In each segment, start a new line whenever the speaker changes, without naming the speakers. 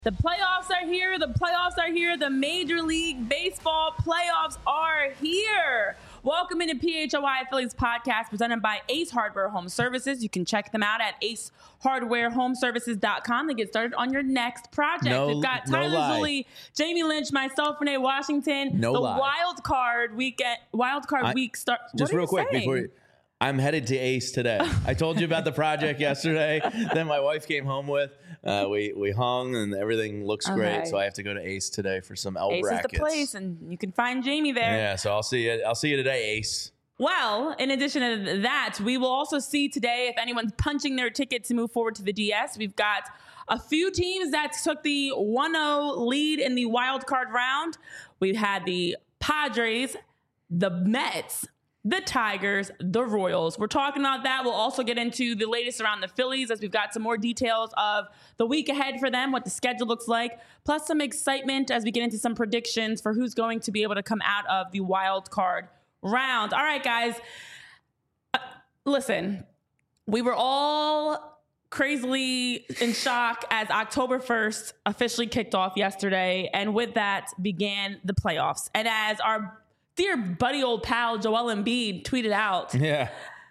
The playoffs are here. The playoffs are here. The Major League Baseball playoffs are here. Welcome into PHOI Phillies podcast presented by Ace Hardware Home Services. You can check them out at acehardwarehomeservices.com to get started on your next project. We've got Tyler Zulli, Jamie Lynch, myself, Renee Washington. Wild card week start.
Just real quick before I'm headed to Ace today. I told you about the project yesterday that my wife came home with. We hung and everything looks great. So I have to go to Ace today for some L brackets.
Ace is the place, and you can find Jamie there.
Yeah, so I'll see you today, Ace.
Well, in addition to that, we will also see today if anyone's punching their ticket to move forward to the DS. We've got a few teams that took the 1-0 lead in the wild card round. We've had the Padres, the Mets, the Tigers, the Royals. We're talking about that. We'll also get into the latest around the Phillies as we've got some more details of the week ahead for them, what the schedule looks like, plus some excitement as we get into some predictions for who's going to be able to come out of the wild card round. All right, guys. Listen, we were all crazily in shock as October 1st officially kicked off yesterday, and with that began the playoffs. And as our dear buddy old pal Joel Embiid tweeted out, MLB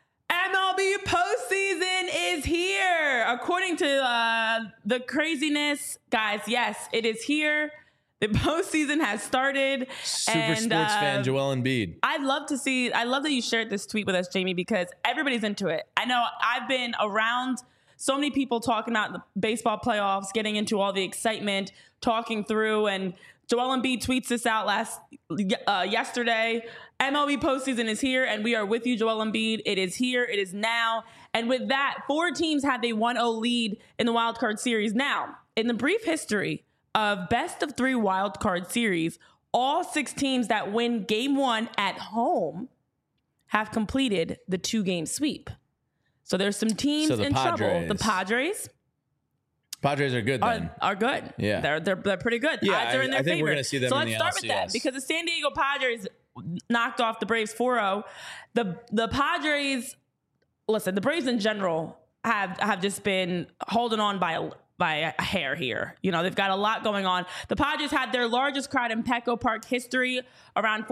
postseason is here. According to the craziness, guys, yes, it is here. The postseason has started.
Super sports fan Joel Embiid.
I love that you shared this tweet with us, Jamie, because everybody's into it. I know I've been around so many people talking about the baseball playoffs, getting into all the excitement, talking through, and Joel Embiid tweets this out yesterday. MLB postseason is here, and we are with you, Joel Embiid. It is here. It is now. And with that, 4 teams had the 1-0 lead in the wild card series. Now, in the brief history of best of 3 wild card series, all 6 teams that win game 1 at home have completed the 2-game sweep. So there's some teams in trouble. The Padres are good then. Are good.
Yeah.
They're pretty good.
Yeah,
Odds are in their favor.
I think we're going to see them in the
So let's start with that, because the San Diego Padres knocked off the Braves 4-0. The Padres, listen, the Braves in general have just been holding on by a hair here. You know, they've got a lot going on. The Padres had their largest crowd in Petco Park history. Around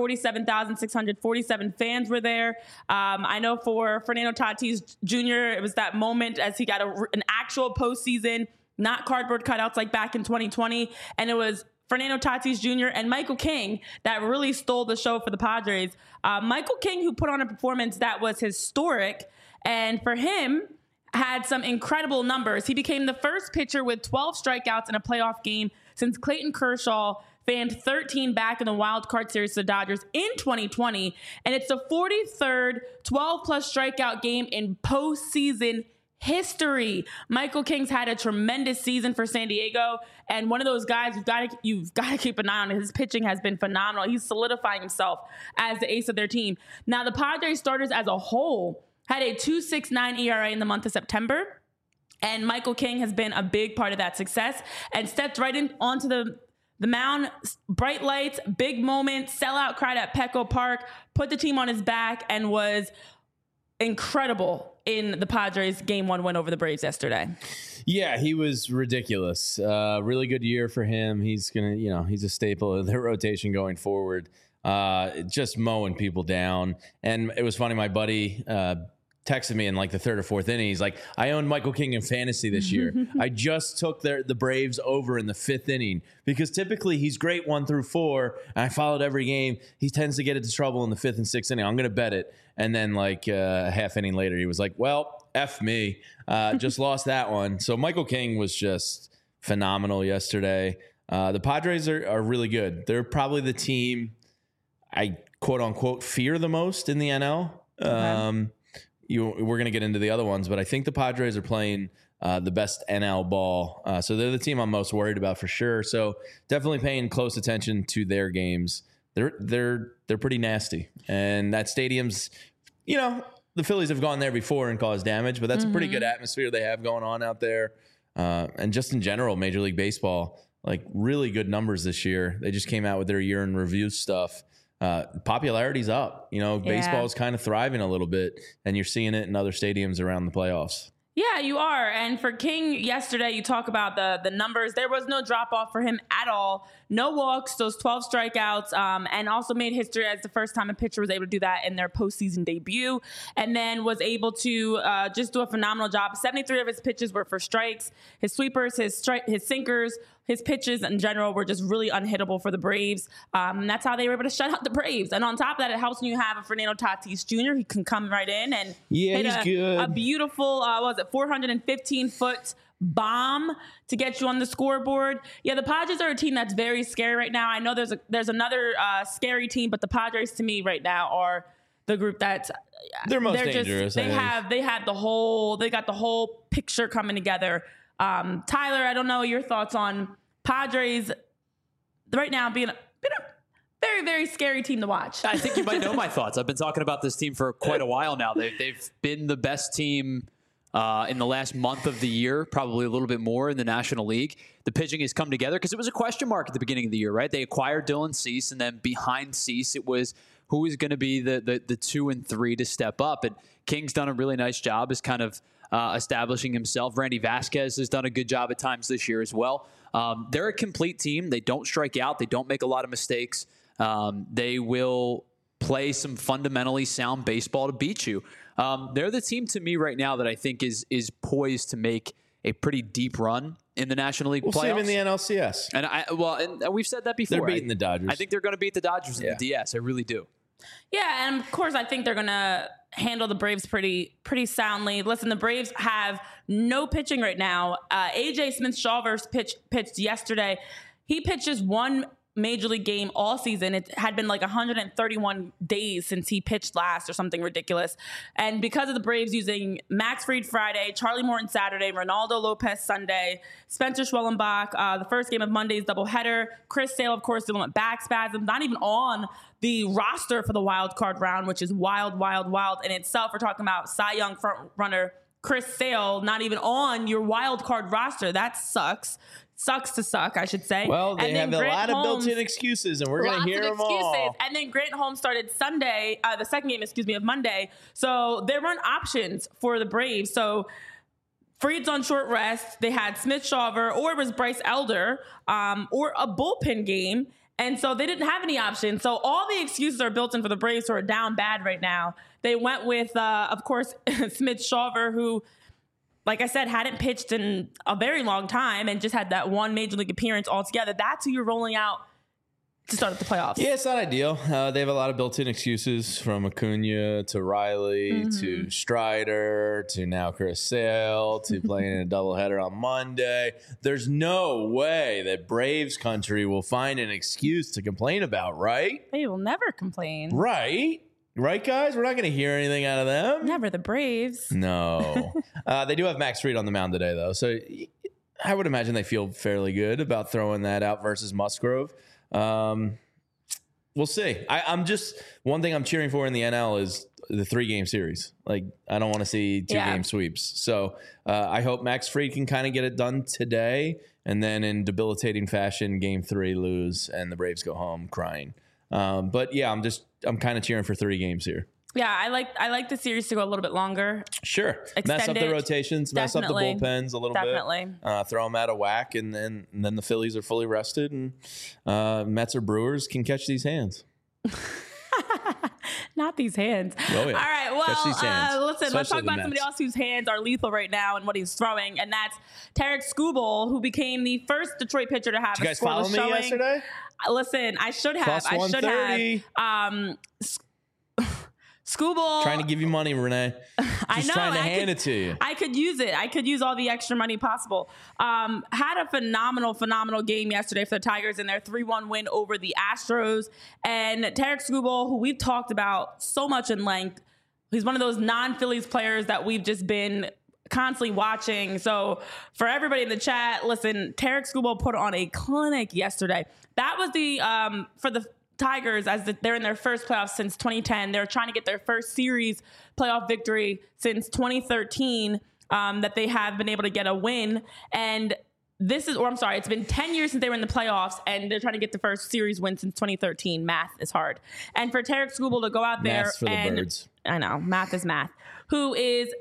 47,647 fans were there. I know for Fernando Tatis Jr., it was that moment as he got an actual postseason, not cardboard cutouts like back in 2020. And it was Fernando Tatis Jr. and Michael King that really stole the show for the Padres. Michael King, who put on a performance that was historic, and for him, had some incredible numbers. He became the first pitcher with 12 strikeouts in a playoff game since Clayton Kershaw fanned 13 back in the wild card series to the Dodgers in 2020. And it's the 43rd 12-plus strikeout game in postseason history. Michael King's had a tremendous season for San Diego, and one of those guys you've got to keep an eye on. His pitching has been phenomenal. He's solidifying himself as the ace of their team. Now, the Padres starters as a whole had a 2.69 ERA in the month of September, and Michael King has been a big part of that success and stepped right onto the mound. Bright lights, big moment, sellout crowd at Petco Park, put the team on his back, and was incredible in the Padres' Game 1 win over the Braves yesterday.
Yeah, he was ridiculous. Really good year for him. He's he's a staple of their rotation going forward. Just mowing people down. And it was funny, my buddy texted me in like the 3rd or 4th inning. He's like, I owned Michael King in fantasy this year. I just took the Braves over in the 5th inning, because typically he's great 1 through 4. And I followed every game. He tends to get into trouble in the 5th and 6th inning. I'm going to bet it. And then like a half inning later, he was like, well, F me. Just lost that one. So Michael King was just phenomenal yesterday. The Padres are really good. They're probably the team I quote unquote fear the most in the NL. Okay. We're going to get into the other ones, but I think the Padres are playing the best NL ball. So they're the team I'm most worried about for sure. So definitely paying close attention to their games. They're pretty nasty. And that stadium's, the Phillies have gone there before and caused damage, but that's a pretty good atmosphere they have going on out there. And just in general, Major League Baseball, like really good numbers this year. They just came out with their year in review stuff. Popularity's up. Baseball is kind of thriving a little bit, and you're seeing it in other stadiums around the playoffs.
Yeah, you are. And for King yesterday, you talk about the numbers. There was no drop off for him at all. No walks, those 12 strikeouts, and also made history as the first time a pitcher was able to do that in their postseason debut. And then was able to just do a phenomenal job. 73 of his pitches were for strikes. His sweepers, his sinkers, his pitches in general were just really unhittable for the Braves. And that's how they were able to shut out the Braves. And on top of that, it helps when you have a Fernando Tatis Jr. He can come right in and hit a beautiful, 415-foot bomb to get you on the scoreboard. Yeah, the Padres are a team that's very scary right now. I know there's another scary team, but the Padres to me right now are the group that's
they're most dangerous.
They got the whole picture coming together. Tyler, I don't know your thoughts on Padres right now being a very, very scary team to watch.
I think you might know my thoughts. I've been talking about this team for quite a while now. They've been the best team in the last month of the year, probably a little bit more in the National League. The pitching has come together because it was a question mark at the beginning of the year, right? They acquired Dylan Cease, and then behind Cease, it was who is going to be the 2 and 3 to step up. And King's done a really nice job as kind of establishing himself. Randy Vasquez has done a good job at times this year as well. They're a complete team. They don't strike out. They don't make a lot of mistakes. They will play some fundamentally sound baseball to beat you. They're the team to me right now that I think is poised to make a pretty deep run in the National League playoffs.
We'll see them in the NLCS.
And we've said that before.
They're beating the Dodgers.
I think they're going to beat the Dodgers in the DS. I really do.
Yeah, and of course, I think they're going to handle the Braves pretty soundly. Listen, the Braves have no pitching right now. AJ Smith-Shawver pitched yesterday. He pitches one Major League game all season. It had been like 131 days since he pitched last or something ridiculous. And because of the Braves using Max Fried Friday, Charlie Morton Saturday, Ronaldo Lopez Sunday, Spencer Schwellenbach, the first game of Monday's doubleheader, Chris Sale, of course, dealing with back spasms, not even on the roster for the wild card round, which is wild in itself. We're talking about Cy Young front runner Chris Sale, not even on your wild card roster. That sucks. Sucks to suck, I should say.
Well, they have a lot of built-in excuses, and we're going to hear them all.
And then Grant Holmes started Sunday, the second game, of Monday. So there weren't options for the Braves. So Fried's on short rest. They had Smith-Shawver, or it was Bryce Elder, or a bullpen game. And so they didn't have any options. So all the excuses are built in for the Braves who are down bad right now. They went with, of course, Smith-Shawver, who, like I said, hadn't pitched in a very long time and just had that one Major League appearance altogether. That's who you're rolling out to start the playoffs.
Yeah, it's not ideal. They have a lot of built-in excuses, from Acuna to Riley to Strider to now Chris Sale to playing in a doubleheader on Monday. There's no way that Braves country will find an excuse to complain about, right?
They will never complain.
Right, guys? We're not going to hear anything out of them.
Never the Braves.
No. They do have Max Fried on the mound today, though. So I would imagine they feel fairly good about throwing that out versus Musgrove. We'll see. I'm just, one thing I'm cheering for in the NL is the 3-game series. Like, I don't want to see 2-game sweeps. So I hope Max Fried can kind of get it done today, and then in debilitating fashion, game 3 lose and the Braves go home crying. But yeah, I'm kind of cheering for 3 games here.
Yeah, I like the series to go a little bit longer.
Sure. Mess up the rotations, mess up the bullpens a little bit. Throw them out of whack, and then the Phillies are fully rested, and Mets or Brewers can catch these hands.
Not these hands.
Oh, yeah.
All right, well, listen,
Especially
let's talk about somebody else whose hands are lethal right now and what he's throwing, and that's Tarik Skubal, who became the first Detroit pitcher to have
Did you guys follow me yesterday?
Listen, I should have.
Plus 130.
Skubal.
Trying to give you money, Renee. Just trying to hand it to you.
I could use it. I could use all the extra money possible. Had a phenomenal game yesterday for the Tigers in their 3-1 win over the Astros. And Tarik Skubal, who we've talked about so much in length, he's one of those non-Phillies players that we've just been constantly watching. So for everybody in the chat, listen, Tarik Skubal put on a clinic yesterday. That was the for the Tigers, they're in their first playoffs since 2010. They're trying to get their first series playoff victory since 2013, that they have been able to get a win. And it's been 10 years since they were in the playoffs, and they're trying to get the first series win since 2013. Math is hard. And for Tarik Skubal to go out there
Math's for the birds.
I know, math is math. Who is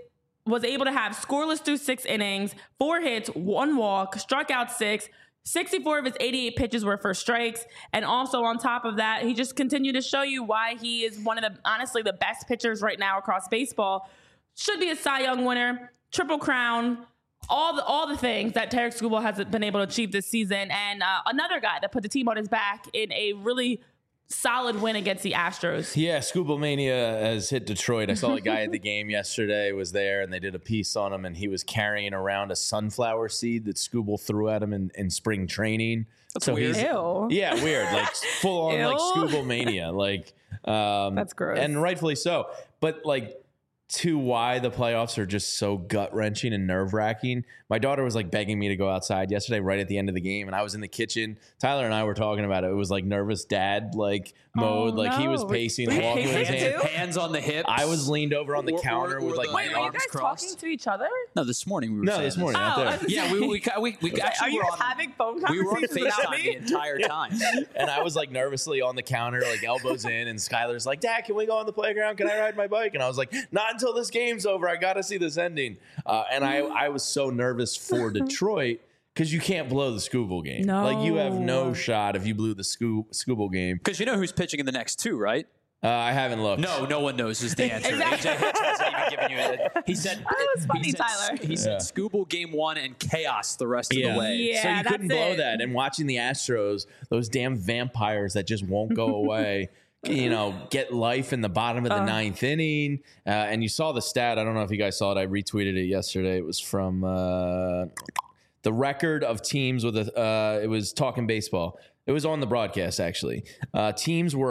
was able to have scoreless through 6 innings, 4 hits, 1 walk, struck out 6. 64 of his 88 pitches were for strikes. And also on top of that, he just continued to show you why he is one of the, honestly, the best pitchers right now across baseball. Should be a Cy Young winner, Triple Crown, all the things that Tarik Skubal has been able to achieve this season. And another guy that put the team on his back in a really solid win against the Astros.
Yeah, Skubal Mania has hit Detroit. I saw a guy at the game yesterday was there, and they did a piece on him, and he was carrying around a sunflower seed that Skubal threw at him in spring training.
That's weird.
Ew.
Yeah, weird. Like full on like Skubal Mania. Like
that's gross.
And rightfully so. But like to why the playoffs are just so gut-wrenching and nerve-wracking. My daughter was like begging me to go outside yesterday right at the end of the game, and I was in the kitchen. Tyler and I were talking about it. It was like nervous dad like mode. Like he was pacing and walking with his
hands on the hips.
I was leaned over on the counter with like
Wait,
my
were you
arms
guys
crossed.
talking to each other?
No, this morning we were.
No, this morning out there.
Yeah, we actually
Are you
were
guys
on,
having phone
we were on
conversations without
FaceTime
me?
the entire time.
And I was like nervously on the counter, like elbows in, and Skylar's like, Dad, can we go on the playground? Can I ride my bike? And I was like, not until this game's over. I got to see this ending. And I was so nervous for Detroit because you can't blow the Skubal game.
No.
Like you have no shot if you blew the Skubal game.
Because you know who's pitching in the next 2, right?
I haven't looked.
No one knows is the answer.
Exactly.
AJ Hitch hasn't even given you it. He said
That was funny,
he said,
Tyler.
He said Skubal game 1 and chaos the rest of the way.
Yeah,
So you couldn't
that's
blow
it.
that. And watching the Astros, those damn vampires that just won't go away, get life in the bottom of the 9th inning. And you saw the stat. I don't know if you guys saw it. I retweeted it yesterday. It was from the record of teams with it was Talking Baseball. It was on the broadcast, actually. Teams were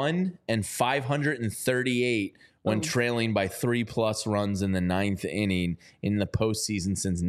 1-538 when trailing by 3+ runs in the 9th inning in the postseason since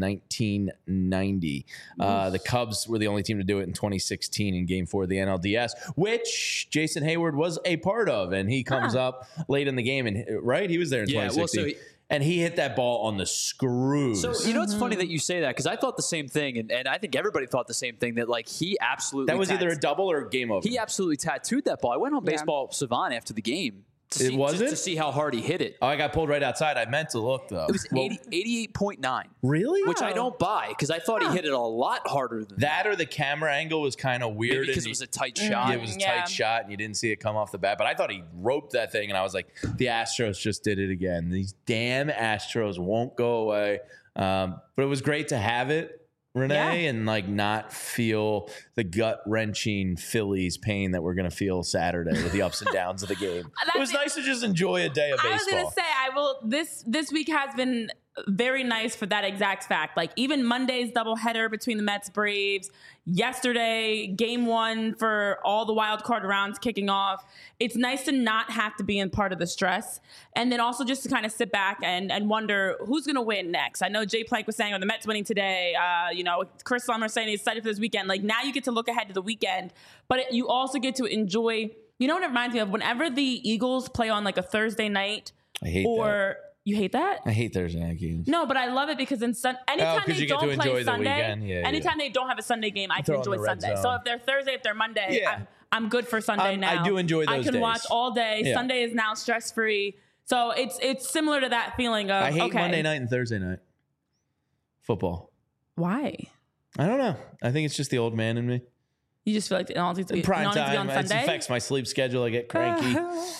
1990. The Cubs were the only team to do it in 2016 in Game 4 of the NLDS, which Jason Hayward was a part of, and he comes up late in the game, and right, he was there in 2016. And he hit that ball on the screws.
So, you know, it's funny that you say that because I thought the same thing. And I think everybody thought the same thing that, like, he absolutely.
That was either a double or a game over.
He absolutely tattooed that ball. I went on Baseball Savant after the game. To see how hard he hit it.
Oh, I got pulled right outside. I meant to look, though.
It was 88.9.
Really?
Which I don't buy because I thought he hit it a lot harder than
that. Or the camera angle was kind of weird.
Maybe because it was a tight shot.
Yeah, it was a tight shot, and you didn't see it come off the bat. But I thought he roped that thing, and I was like, the Astros just did it again. These damn Astros won't go away. But it was great to have it, Renee, and like not feel the gut-wrenching Phillies pain that we're going to feel Saturday with the ups and downs of the game. It was nice to just enjoy a day of baseball.
I was going to say, this week has been very nice for that exact fact. Like even Monday's doubleheader between the Mets Braves, yesterday Game 1 for all the wild card rounds kicking off. It's nice to not have to be in part of the stress, and then also just to kind of sit back and wonder who's going to win next. I know Jay Plank was saying, the Mets winning today. Chris Summer saying he's excited for this weekend. Like now you get to look ahead to the weekend, but you also get to enjoy. You know what it reminds me of? Whenever the Eagles play on like a Thursday night,
I hate that.
You hate that?
I hate Thursday night games.
No, but I love it because anytime they don't play Sunday, anytime they don't have a Sunday game, I can enjoy Sunday. So if they're Thursday, if they're Monday, I'm good for Sunday now.
I do enjoy those
I can
days.
watch all day.
Yeah.
Sunday is now stress free. So it's similar to that feeling of
I hate Monday night and Thursday night football.
Why?
I don't know. I think it's just the old man in me.
You just feel like it all needs to be,
prime
it all needs to be
time.
on
It
Sunday?
affects my sleep schedule. I get cranky.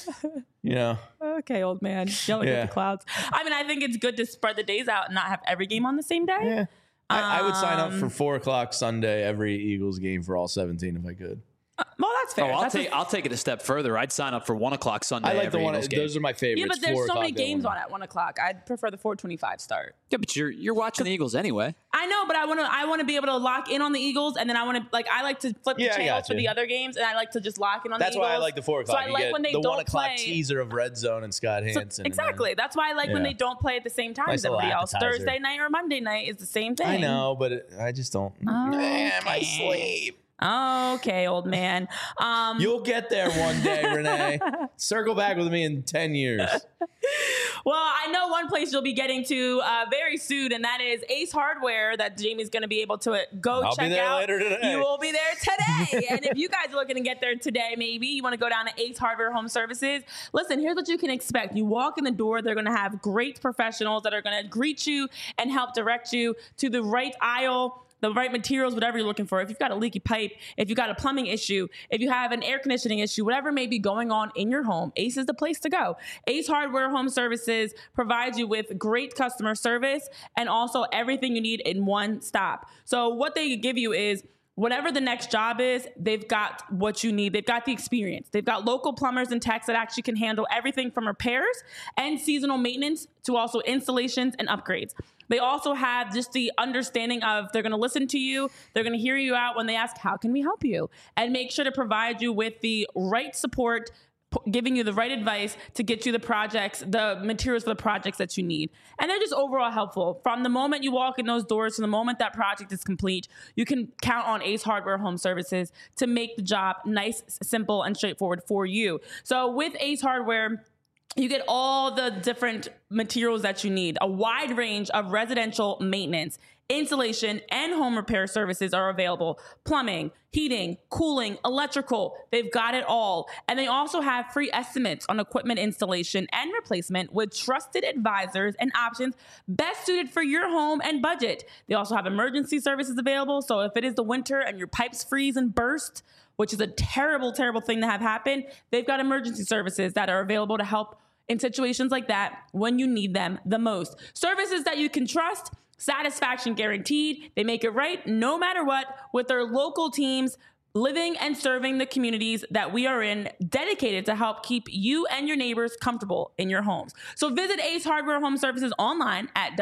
Okay, old man. Yelling at the clouds. I mean, I think it's good to spread the days out and not have every game on the same day.
Yeah. I would sign up for 4:00 Sunday every Eagles game for all 17 if I could.
Well, that's fair.
I'll take it a step further. I'd sign up for 1:00 Sunday.
I like the
every
one.
Eagles game.
Those are my favorites.
Yeah, but there's so many games
on
on at 1:00. I'd prefer the 4:25 start.
Yeah, but you're watching the Eagles anyway.
I know, but I want to be able to lock in on the Eagles, and then I like to flip the channels for the other games, and I like to just lock in on the Eagles.
That's why I like the 4:00.
So I like when they
the
don't
1:00
play
teaser of Red Zone and Scott Hansen.
Exactly. That's why I like when they don't play at the same time as everybody else.
appetizer.
Thursday night or Monday night is the same thing.
I know, but I just don't.
Okay.
Man, my sleep.
Okay, old man.
You'll get there one day, Renee. Circle back with me in 10 years.
Well, I know one place you'll be getting to very soon, and that is Ace Hardware that Jamie's going to be able to go
I'll
check
be there
out.
later today.
You will be there today. And if you guys are looking to get there today, maybe you want to go down to Ace Hardware Home Services. Listen, here's what you can expect. You walk in the door, they're going to have great professionals that are going to greet you and help direct you to the right aisle, the right materials, whatever you're looking for. If you've got a leaky pipe, if you've got a plumbing issue, if you have an air conditioning issue, whatever may be going on in your home, Ace is the place to go. Ace Hardware Home Services provides you with great customer service and also everything you need in one stop. So what they give you is whatever the next job is, they've got what you need. They've got the experience. They've got local plumbers and techs that actually can handle everything from repairs and seasonal maintenance to also installations and upgrades. They also have just the understanding of they're going to listen to you. They're going to hear you out when they ask, how can we help you? And make sure to provide you with the right support, giving you the right advice to get you the projects, the materials for the projects that you need. And they're just overall helpful. From the moment you walk in those doors to the moment that project is complete, you can count on Ace Hardware Home Services to make the job nice, simple, and straightforward for you. So with Ace Hardware, you get all the different materials that you need. A wide range of residential maintenance, insulation, and home repair services are available. Plumbing, heating, cooling, electrical, they've got it all. And they also have free estimates on equipment installation and replacement with trusted advisors and options best suited for your home and budget. They also have emergency services available. So if it is the winter and your pipes freeze and burst, which is a terrible, terrible thing to have happen, they've got emergency services that are available to help in situations like that when you need them the most. Services that you can trust, satisfaction guaranteed. They make it right no matter what with their local teams living and serving the communities that we are in, dedicated to help keep you and your neighbors comfortable in your homes. So visit Ace Hardware Home Services online at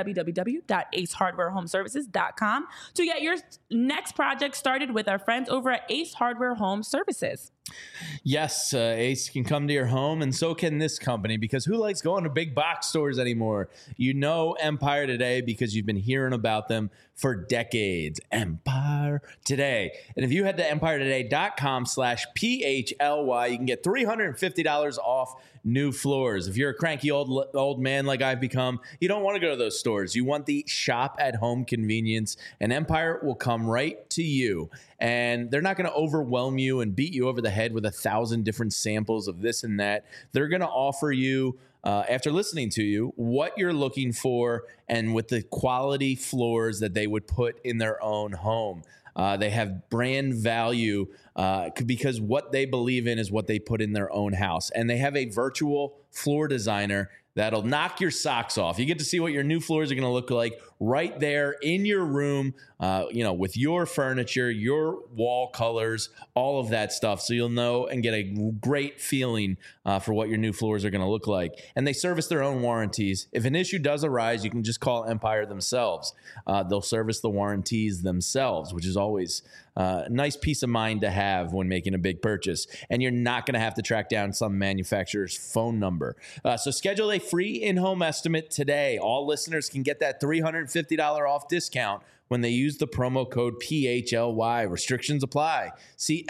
www.acehardwarehomeservices.com to get your next project started with our friends over at Ace Hardware Home Services.
Yes, Ace can come to your home, and so can this company, because who likes going to big box stores anymore? You know Empire Today because you've been hearing about them for decades. Empire Today. And if you head to empiretoday.com/PHLY, you can get $350 off new floors. If you're a cranky old man like I've become, you don't want to go to those stores. You want the shop at home convenience, and Empire will come right to you. And they're not going to overwhelm you and beat you over the head with 1,000 different samples of this and that. They're going to offer you, after listening to you, what you're looking for and with the quality floors that they would put in their own home. They have brand value because what they believe in is what they put in their own house. And they have a virtual floor designer that'll knock your socks off. You get to see what your new floors are going to look like right there in your room, with your furniture, your wall colors, all of that stuff. So you'll know and get a great feeling for what your new floors are going to look like. And they service their own warranties. If an issue does arise, you can just call Empire themselves. They'll service the warranties themselves, which is always a nice peace of mind to have when making a big purchase. And you're not going to have to track down some manufacturer's phone number. So schedule a free in-home estimate today. All listeners can get that $350 off discount when they use the promo code PHLY. Restrictions apply. See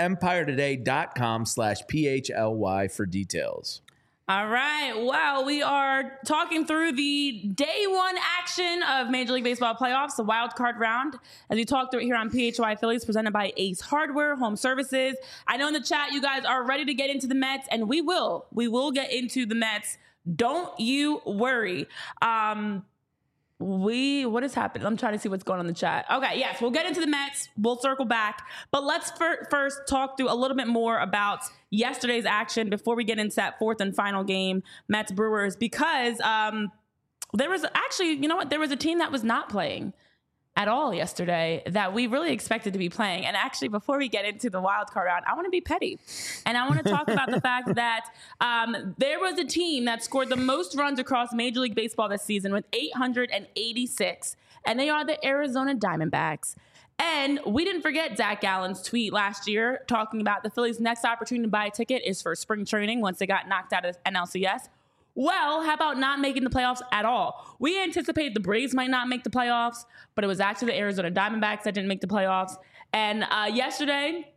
empiretoday.com/PHLY for details.
All right. Well, we are talking through the day one action of Major League Baseball playoffs, the wild card round, as we talk through it here on PHY Phillies, presented by Ace Hardware Home Services. I know in the chat you guys are ready to get into the Mets, and we will. We will get into the Mets. Don't you worry. What has happened? I'm trying to see what's going on in the chat. Okay, yes, we'll get into the Mets. We'll circle back. But let's first talk through a little bit more about yesterday's action before we get into that fourth and final game, Mets Brewers, because there was actually, there was a team that was not playing at all yesterday that we really expected to be playing. And actually, before we get into the wild card round, I want to be petty. And I want to talk about the fact that there was a team that scored the most runs across Major League Baseball this season with 886. And they are the Arizona Diamondbacks. And we didn't forget Zach Gallen's tweet last year talking about the Phillies' next opportunity to buy a ticket is for spring training once they got knocked out of NLCS. Well, how about not making the playoffs at all? We anticipated the Braves might not make the playoffs, but it was actually the Arizona Diamondbacks that didn't make the playoffs. And yesterday,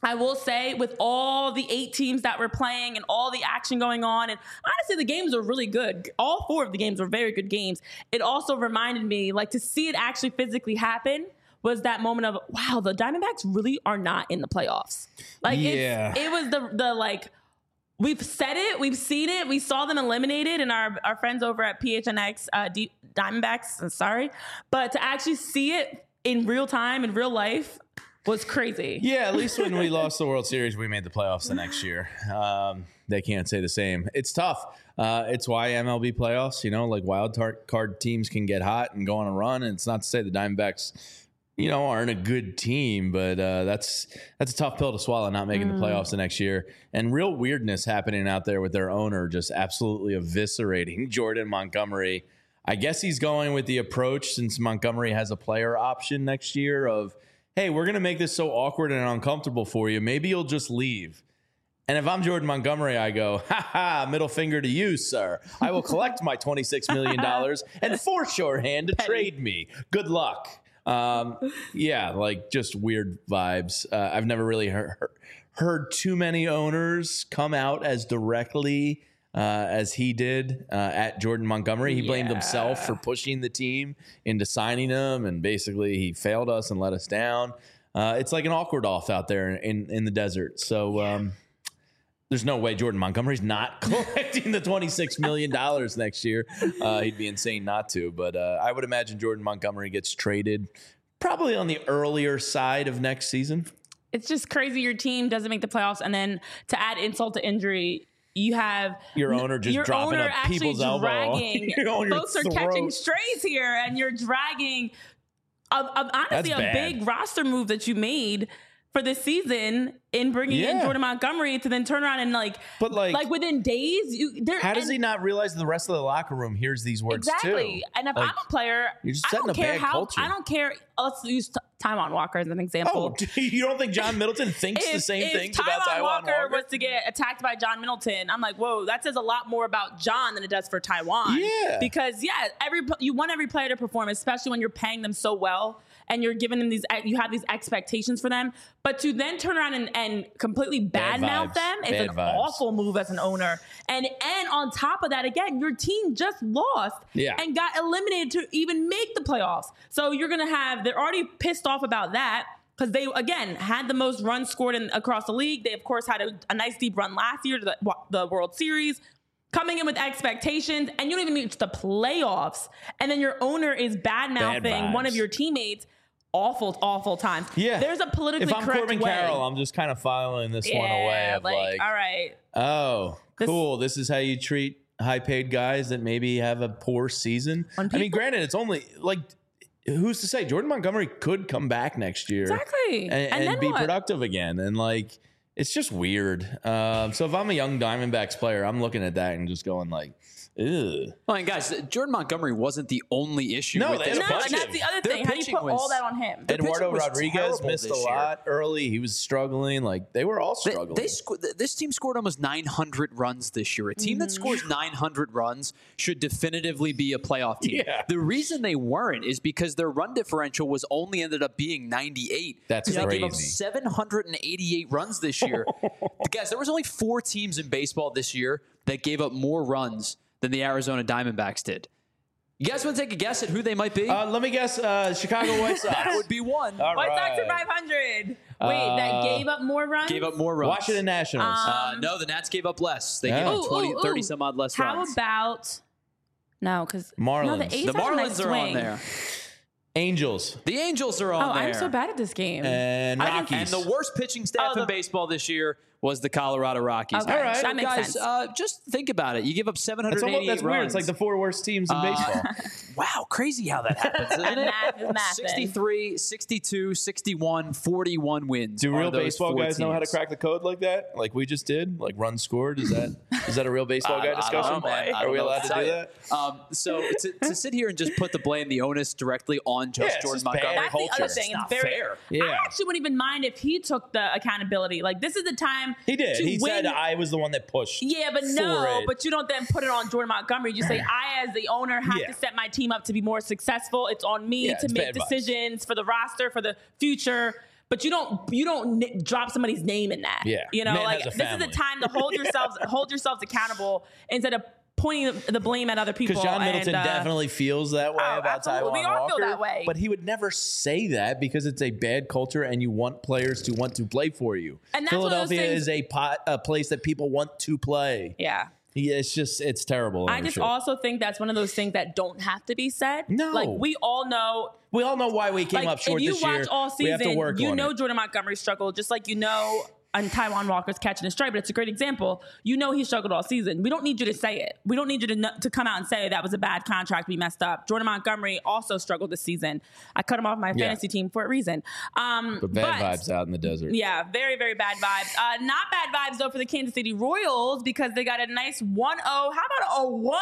I will say, with all the 8 teams that were playing and all the action going on, and honestly, the games were really good. All 4 of the games were very good games. It also reminded me, like, to see it actually physically happen was that moment of, wow, the Diamondbacks really are not in the playoffs. Like, it was the like, we've said it, we've seen it, we saw them eliminated, and our friends over at PHNX Diamondbacks, sorry, but to actually see it in real time, in real life, was crazy.
Yeah, at least when we lost the World Series, we made the playoffs the next year. They can't say the same. It's tough. It's why MLB playoffs, like wild card teams can get hot and go on a run. And it's not to say the Diamondbacks, aren't a good team, but that's a tough pill to swallow, not making the playoffs the next year. And real weirdness happening out there with their owner just absolutely eviscerating Jordan Montgomery. I guess he's going with the approach, since Montgomery has a player option next year, of, hey, we're going to make this so awkward and uncomfortable for you. Maybe you'll just leave. And if I'm Jordan Montgomery, I go, middle finger to you, sir. I will collect my $26 million and force your hand to trade me. Good luck. Just weird vibes. I've never really heard too many owners come out as directly as he did at Jordan Montgomery. He blamed himself for pushing the team into signing him, and basically he failed us and let us down. It's like an awkward off out there in the desert. So there's no way Jordan Montgomery's not collecting the $26 million next year. He'd be insane not to. But I would imagine Jordan Montgomery gets traded probably on the earlier side of next season.
It's just crazy your team doesn't make the playoffs, and then to add insult to injury, you have
your owner dropping up people's elbow.
Folks are catching strays here, and you're dragging honestly a big roster move that you made for this season in bringing in Jordan Montgomery to then turn around and like within days.
How does he not realize the rest of the locker room hears these words
exactly?
Too?
And if I'm a player,
you're just setting a bad culture.
I don't care. Let's use Taijuan Walker as an example.
Oh, you don't think John Middleton thinks the same things about Taijuan Walker?
Was to get attacked by John Middleton, I'm like, whoa, that says a lot more about John than it does for Taijuan.
Yeah,
because you want every player to perform, especially when you're paying them so well and you're giving them you have these expectations for them. But to then turn around and completely badmouth them is an awful move as an owner. And on top of that, again, your team just lost and got eliminated to even make the playoffs. So they're already pissed off about that, because they, again, had the most runs scored across the league. They, of course, had a nice deep run last year to the World Series, coming in with expectations, and you don't even reach the playoffs. And then your owner is bad-mouthing one of your teammates. Awful, awful times. Yeah. There's a politically correct way. If I'm Corbin Carroll,
I'm just kind of filing this one away. All
right.
Oh, cool. This is how you treat high-paid guys that maybe have a poor season. I mean, granted, it's only who's to say Jordan Montgomery could come back next year
exactly
and be productive again, and it's just weird. So if I'm a young Diamondbacks player, I'm looking at that and just going like, ew.
Well, and guys, Jordan Montgomery wasn't the only issue.
No,
with
and
that's the other thing. How do you put all that on him?
Eduardo Rodriguez missed a lot early. He was struggling. They were all struggling.
This team scored almost 900 runs this year. A team that scores 900 runs should definitively be a playoff team.
Yeah.
The reason they weren't is because their run differential was only ended up being 98.
That's crazy.
They gave up 788 runs this year. Guys, there was only 4 teams in baseball this year that gave up more runs than the Arizona Diamondbacks did. You guys want to take a guess at who they might be?
Let me guess. Chicago White Sox.
That would be one.
White Sox are 500. Wait, that gave up more runs?
Gave up more runs.
Washington Nationals.
No, the Nats gave up less. They gave up 30 some odd less runs.
How about... No, because...
Marlins.
The Marlins are on there.
Angels.
The Angels are on there.
I'm so bad at this game.
And Rockies.
And the worst pitching staff in baseball this year was the Colorado Rockies.
Okay. All right. That makes sense.
Just think about it. You give up 788
that's
runs.
Weird. It's like the 4 worst teams in baseball.
Wow, crazy how that happens, isn't it?
Math is math.
63, 62, 61, 41 wins.
Do real baseball guys know how to crack the code like that? Like we just did? Like runs scored? Is that a real baseball guy discussion?
I don't know, man.
Are we allowed to do that?
So to sit here and just put the blame, the onus directly on Jordan Montgomery.
That's the other thing. It's very
fair.
Yeah. I actually wouldn't even mind if he took the accountability. Like, this is the time
he did.
He
said I was the one that pushed.
Yeah, but but you don't then put it on Jordan Montgomery. You say, I, as the owner, have to set my team up to be more successful. It's on me to make decisions for the roster, for the future. but you don't drop somebody's name in that.
Yeah.
You know,
Man
like
has a
this is the
family.
time to hold yourselves accountable instead of pointing the blame at other people.
Because John Middleton
and,
definitely feels that way about
absolutely.
Taiwan
We all
Walker.
feel that way.
But he would never say that because it's a bad culture and you want players to want to play for you.
And that's one of those
Philadelphia
things-
is a place that people want to play.
Yeah.
Yeah, it's terrible.
I just also think that's one of those things that don't have to be said.
No.
Like, we all know.
We all know why we came up short
if you
this year.
watch all
We have to
season,
work
you
on
know
it.
Jordan Montgomery struggled, just like you know and Taiwan Walker's catching a strike, but it's a great example. You know he struggled all season. We don't need you to say it. We don't need you to come out and say that was a bad contract, we messed up. Jordan Montgomery also struggled this season. I cut him off my fantasy team for a reason.
But bad vibes out in the desert.
Yeah, very, very bad vibes. Not bad vibes, though, for the Kansas City Royals because they got a nice 1-0. How about a 1-0?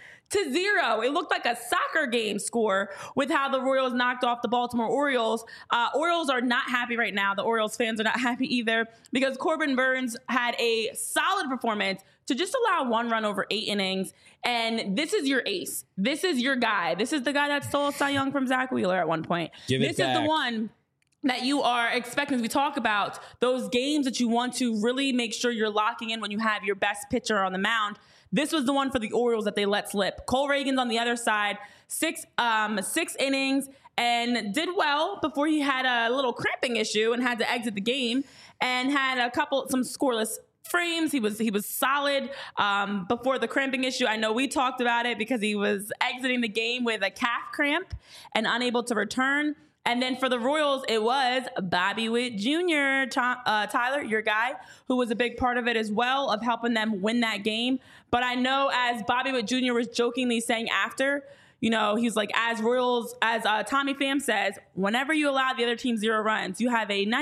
It looked like a soccer game score with how the Royals knocked off the Baltimore Orioles. Orioles are not happy right now. The Orioles fans are not happy either because Corbin Burns had a solid performance to just allow 1 run over 8 innings. And this is your ace. This is your guy. This is the guy that stole Cy Young from Zach Wheeler at one point. This is the one that you are expecting. As we talk about those games that you want to really make sure you're locking in when you have your best pitcher on the mound. This was the one for the Orioles that they let slip. Cole Reagan's on the other side, 6 innings, and did well before he had a little cramping issue and had to exit the game, and had some scoreless frames. He was solid before the cramping issue. I know we talked about it because he was exiting the game with a calf cramp and unable to return. And then for the Royals, it was Bobby Witt Jr., Tyler, your guy, who was a big part of it as well, of helping them win that game. But I know as Bobby Witt Jr. was jokingly saying after, you know, he's like, as Tommy Pham says, whenever you allow the other team 0 runs, you have a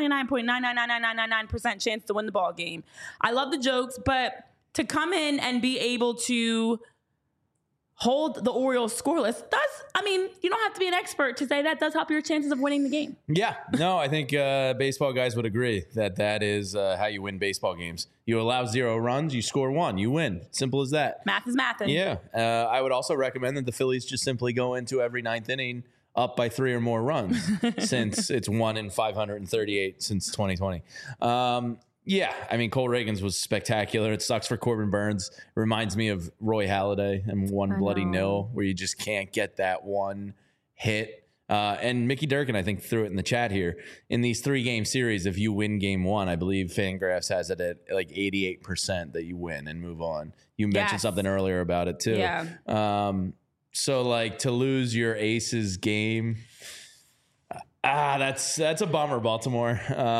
99.99999% chance to win the ball game. I love the jokes, but to come in and be able to hold the Orioles scoreless you don't have to be an expert to say that does help your chances of winning the game.
Yeah, no, I think baseball guys would agree that is how you win baseball games. You allow 0 runs, you score 1, you win. Simple as that.
Math is math.
Yeah, I would also recommend that the Phillies just simply go into every 9th inning up by 3 or more runs since it's 1 in 538 since 2020. Yeah, I mean, Cole Reagan's was spectacular. It sucks for Corbin Burns. Reminds me of Roy Halladay and One Bloody Nil, where you just can't get that one hit. And Mickey Durkin, I think, threw it in the chat here. In these 3-game series, if you win game 1, I believe Fangraphs has it at like 88% that you win and move on. You mentioned something earlier about it, too.
Yeah.
So, like, to lose your aces game, that's a bummer, Baltimore.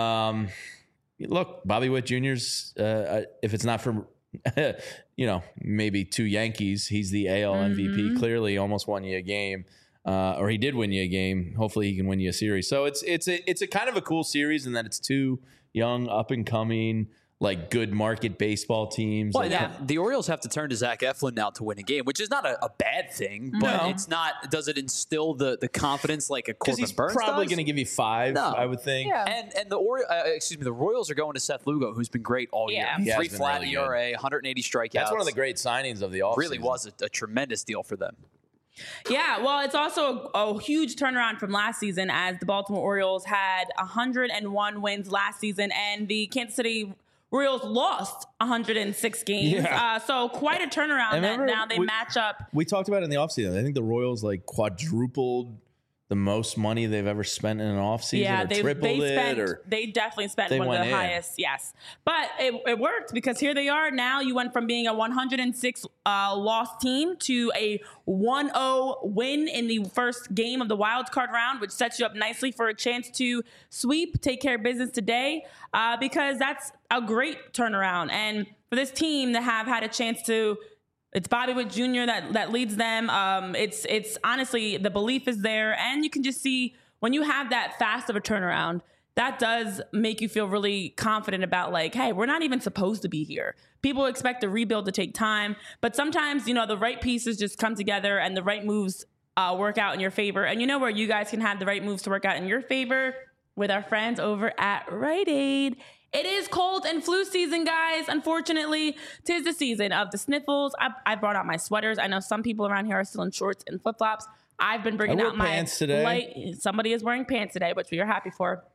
Look, Bobby Witt Jr.'s, if it's not for, maybe 2 Yankees, he's the AL MVP. Clearly almost won you a game, or he did win you a game. Hopefully he can win you a series. So it's a kind of a cool series in that it's 2 young, up-and-coming, like good market baseball teams.
Well, the Orioles have to turn to Zach Eflin now to win a game, which is not a bad thing, but it's not. Does it instill the confidence like a Corbin
he's
Burns
probably
does?
going to give you 5, I would think.
Yeah.
And the Royals are going to Seth Lugo, who's been great all year.
Yeah.
3
been
flat
really
ERA, 180 strikeouts.
That's one of the great signings of the offseason.
Really was a tremendous deal for them.
Yeah, well, it's also a huge turnaround from last season as the Baltimore Orioles had 101 wins last season, and the Kansas City Royals lost 106 games.
Yeah.
So quite a turnaround that now they match up.
We talked about it in the offseason. I think the Royals like quadrupled the most money they've ever spent in an offseason,
Yeah,
or tripled
they definitely spent
they
one of
went
the
in.
highest, yes. But it worked because here they are now. You went from being a 106 loss team to a 1-0 win in the first game of the wild card round, which sets you up nicely for a chance to sweep, take care of business today, because that's a great turnaround. And for this team to have had a chance to, it's Bobby Witt Jr. that leads them. It's honestly, the belief is there, and you can just see when you have that fast of a turnaround, that does make you feel really confident about like, hey, we're not even supposed to be here. People expect the rebuild to take time, but sometimes, the right pieces just come together and the right moves work out in your favor. And you know where you guys can have the right moves to work out in your favor? With our friends over at Rite Aid. It is cold and flu season, guys. Unfortunately, 'tis the season of the sniffles. I brought out my sweaters. I know some people around here are still in shorts and flip-flops. I've been bringing out my
pants today.
Somebody is wearing pants today, which we are happy for.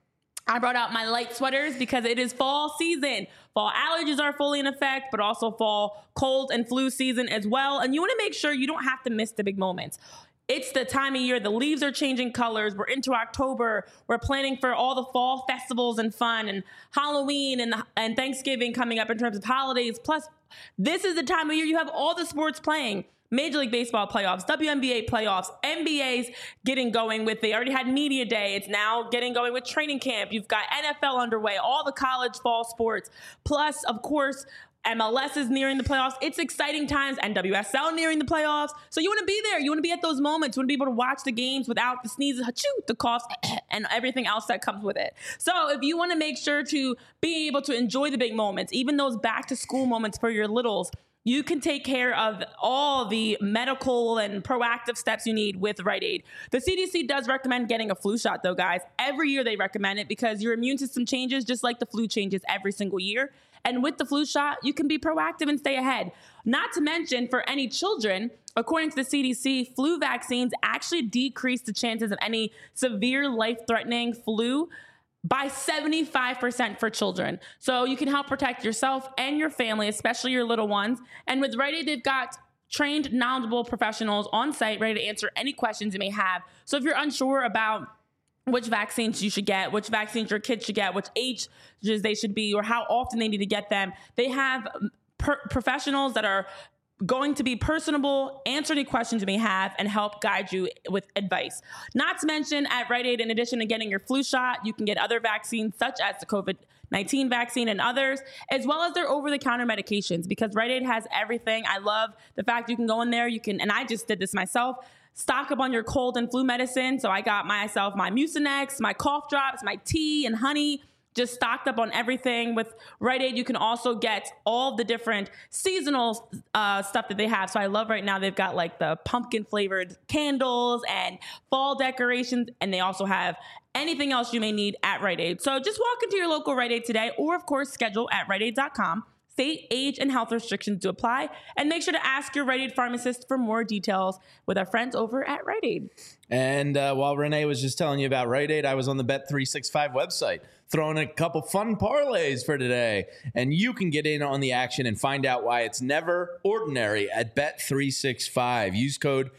I brought out my light sweaters because it is fall season. Fall allergies are fully in effect, but also fall cold and flu season as well. And you want to make sure you don't have to miss the big moments. It's the time of year. The leaves are changing colors. We're into October. We're planning for all the fall festivals and fun and Halloween and Thanksgiving coming up in terms of holidays. Plus, this is the time of year you have all the sports playing. Major League Baseball playoffs, WNBA playoffs, NBA's getting going with, they already had media day. It's now getting going with training camp. You've got NFL underway, all the college fall sports. Plus, of course, MLS is nearing the playoffs. It's exciting times. NWSL nearing the playoffs. So you want to be there. You want to be at those moments. You want to be able to watch the games without the sneezes, the coughs, and everything else that comes with it. So if you want to make sure to be able to enjoy the big moments, even those back to school moments for your littles, you can take care of all the medical and proactive steps you need with Rite Aid. The CDC does recommend getting a flu shot, though, guys. Every year they recommend it because your immune system changes just like the flu changes every single year. And with the flu shot, you can be proactive and stay ahead. Not to mention, for any children, according to the CDC, flu vaccines actually decrease the chances of any severe life-threatening flu by 75% for children. So you can help protect yourself and your family, especially your little ones. And with Rite Aid, they've got trained, knowledgeable professionals on site ready to answer any questions you may have. So if you're unsure about which vaccines you should get, which vaccines your kids should get, which ages they should be, or how often they need to get them, they have professionals that are going to be personable, answer any questions you may have, and help guide you with advice. Not to mention, at Rite Aid, in addition to getting your flu shot, you can get other vaccines such as the COVID-19 vaccine and others, as well as their over-the-counter medications, because Rite Aid has everything. I love the fact you can go in there, and I just did this myself, stock up on your cold and flu medicine. So I got myself my Mucinex, my cough drops, my tea and honey, just stocked up on everything. With Rite Aid, you can also get all the different seasonal stuff that they have. So I love right now they've got like the pumpkin flavored candles and fall decorations, and they also have anything else you may need at Rite Aid. So just walk into your local Rite Aid today, or of course schedule at riteaid.com. State, age, and health restrictions do apply. And make sure to ask your Rite Aid pharmacist for more details with our friends over at Rite Aid.
And while Renee was just telling you about Rite Aid, I was on the Bet365 website throwing a couple fun parlays for today. And you can get in on the action and find out why it's never ordinary at Bet365. Use code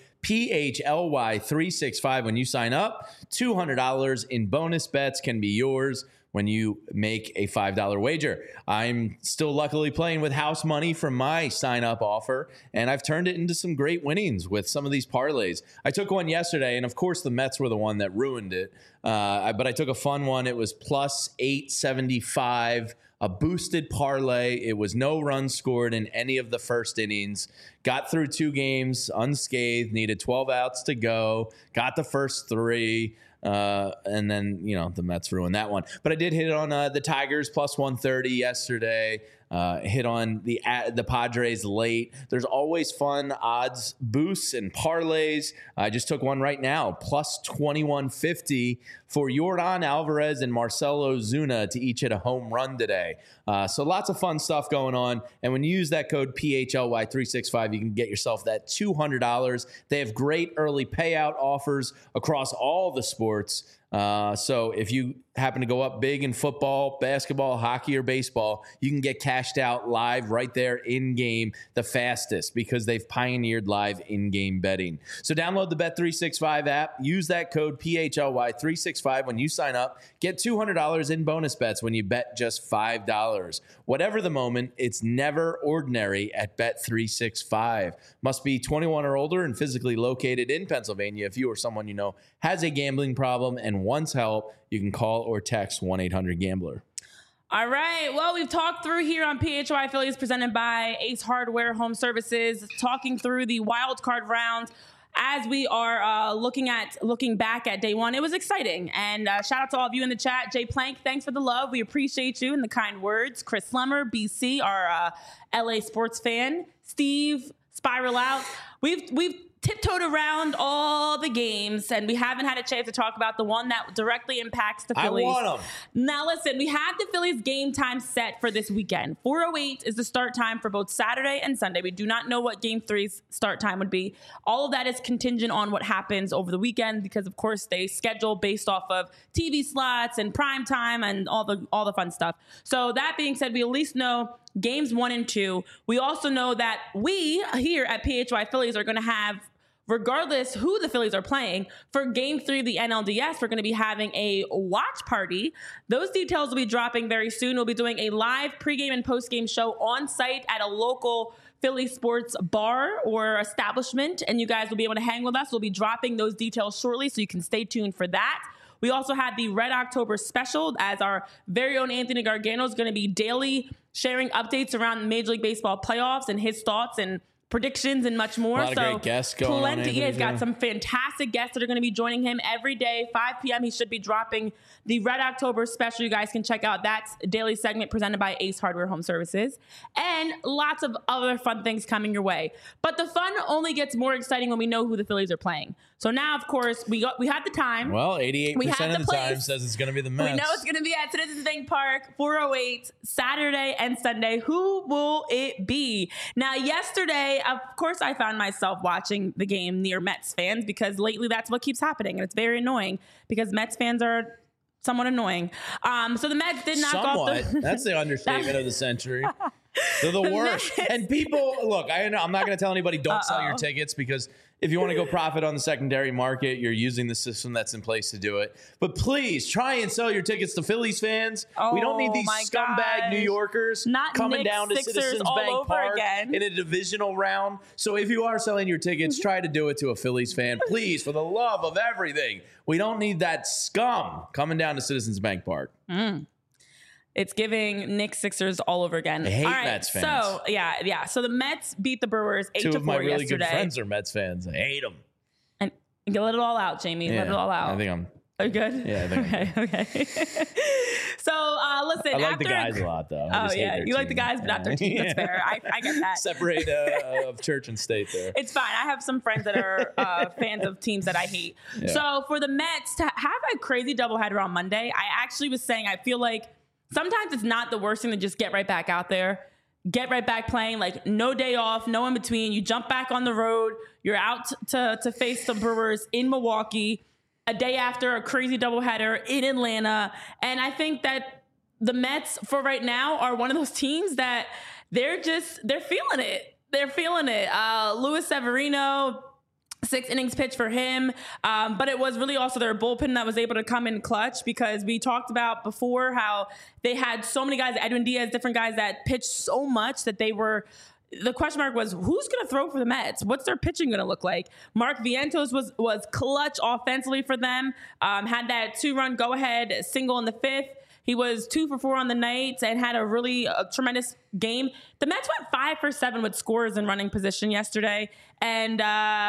PHLY365 when you sign up. $200 in bonus bets can be yours when you make a $5 wager. I'm still luckily playing with house money from my sign-up offer, and I've turned it into some great winnings with some of these parlays. I took one yesterday, and of course the Mets were the one that ruined it, but I took a fun one. It was plus 875, a boosted parlay. It was no runs scored in any of the first innings. Got through 2 games unscathed, needed 12 outs to go, got the first 3. And then, the Mets ruined that one. But I did hit on the Tigers plus 130 yesterday. Hit on the Padres late. There's always fun odds boosts and parlays. I just took one right now, plus 2150 for Yordan Alvarez and Marcelo Ozuna to each hit a home run today. So lots of fun stuff going on. And when you use that code PHLY365, you can get yourself that $200. They have great early payout offers across all the sports. So if you happen to go up big in football, basketball, hockey, or baseball, you can get cashed out live right there in game the fastest because they've pioneered live in-game betting. So download the Bet365 app, use that code PHLY365 when you sign up, get $200 in bonus bets when you bet just $5. Whatever the moment, it's never ordinary at Bet365. Must be 21 or older and physically located in Pennsylvania. If you or someone you know has a gambling problem and wants help, you can call or text 1-800-GAMBLER.
All right. Well, we've talked through here on PHY Affiliates presented by Ace Hardware Home Services, talking through the wild card rounds as we are looking back at day one. It was exciting. And shout out to all of you in the chat. Jay Plank, thanks for the love. We appreciate you and the kind words. Chris Slummer, BC, our LA sports fan. Steve, Spiral Out. We've tiptoed around all the games, and we haven't had a chance to talk about the one that directly impacts the Phillies.
I want them.
Now, listen, we have the Phillies game time set for this weekend. 4:08 is the start time for both Saturday and Sunday. We do not know what Game 3's start time would be. All of that is contingent on what happens over the weekend because, of course, they schedule based off of TV slots and prime time and all the fun stuff. So that being said, we at least know games 1 and 2. We also know that we here at PHY Phillies are going to have, regardless who the Phillies are playing, for Game 3 of the NLDS, we're going to be having a watch party. Those details will be dropping very soon. We'll be doing a live pregame and postgame show on site at a local Philly sports bar or establishment, and you guys will be able to hang with us. We'll be dropping those details shortly, so you can stay tuned for that. We also have the Red October special, as our very own Anthony Gargano is going to be daily sharing updates around the Major League Baseball playoffs and his thoughts and predictions and much more.
A lot of great guests going on.
He has got some fantastic guests that are going to be joining him every day. 5 p.m. he should be dropping the Red October special. You guys can check out that daily segment presented by Ace Hardware Home Services, and lots of other fun things coming your way. But the fun only gets more exciting when we know who the Phillies are playing. So now, of course, we have the time.
Well, 88% of the time says it's going to be the Mets.
We know it's going to be at Citizens Bank Park, 4:08, Saturday and Sunday. Who will it be? Now, yesterday, of course, I found myself watching the game near Mets fans because lately that's what keeps happening. And it's very annoying because Mets fans are somewhat annoying. So the Mets did knock off the...
That's the understatement of the century. They're the worst. And people, look, I'm not going to tell anybody don't sell your tickets because if you want to go profit on the secondary market, you're using the system that's in place to do it. But please try and sell your tickets to Phillies fans. We don't need these scumbag New Yorkers coming down to Citizens Bank Park in a divisional round. So if you are selling your tickets, try to do it to a Phillies fan. Please, for the love of everything. We don't need that scum coming down to Citizens Bank Park.
It's giving Knicks Sixers all over again.
I hate Mets fans.
So, yeah. So the Mets beat the Brewers 8-4 yesterday.
2 of my really good friends are Mets fans. I hate them.
And let it all out, Jamie.
Yeah,
let it all out.
I think I'm...
Are you good?
Yeah, I think
okay. So, listen.
I like the guys a lot, though.
Oh, yeah. You like the guys, but not their team. That's fair. I get that.
Separate of church and state there.
It's fine. I have some friends that are fans of teams that I hate. Yeah. So, for the Mets to have a crazy doubleheader on Monday, I actually was saying I feel like sometimes it's not the worst thing to just get right back out there, get right back playing, like no day off, no in between. You jump back on the road. You're out to face the Brewers in Milwaukee a day after a crazy doubleheader in Atlanta. And I think that the Mets for right now are one of those teams that they're feeling it. They're feeling it. Luis Severino, 6 innings pitch for him. But it was really also their bullpen that was able to come in clutch because we talked about before how they had so many guys, Edwin Diaz, different guys that pitched so much that they were, the question mark was, who's going to throw for the Mets? What's their pitching going to look like? Mark Vientos was clutch offensively for them. Had that 2-run go-ahead single in the 5th. He was 2 for 4 on the night and had a tremendous game. The Mets went 5 for 7 with scores in running position yesterday, and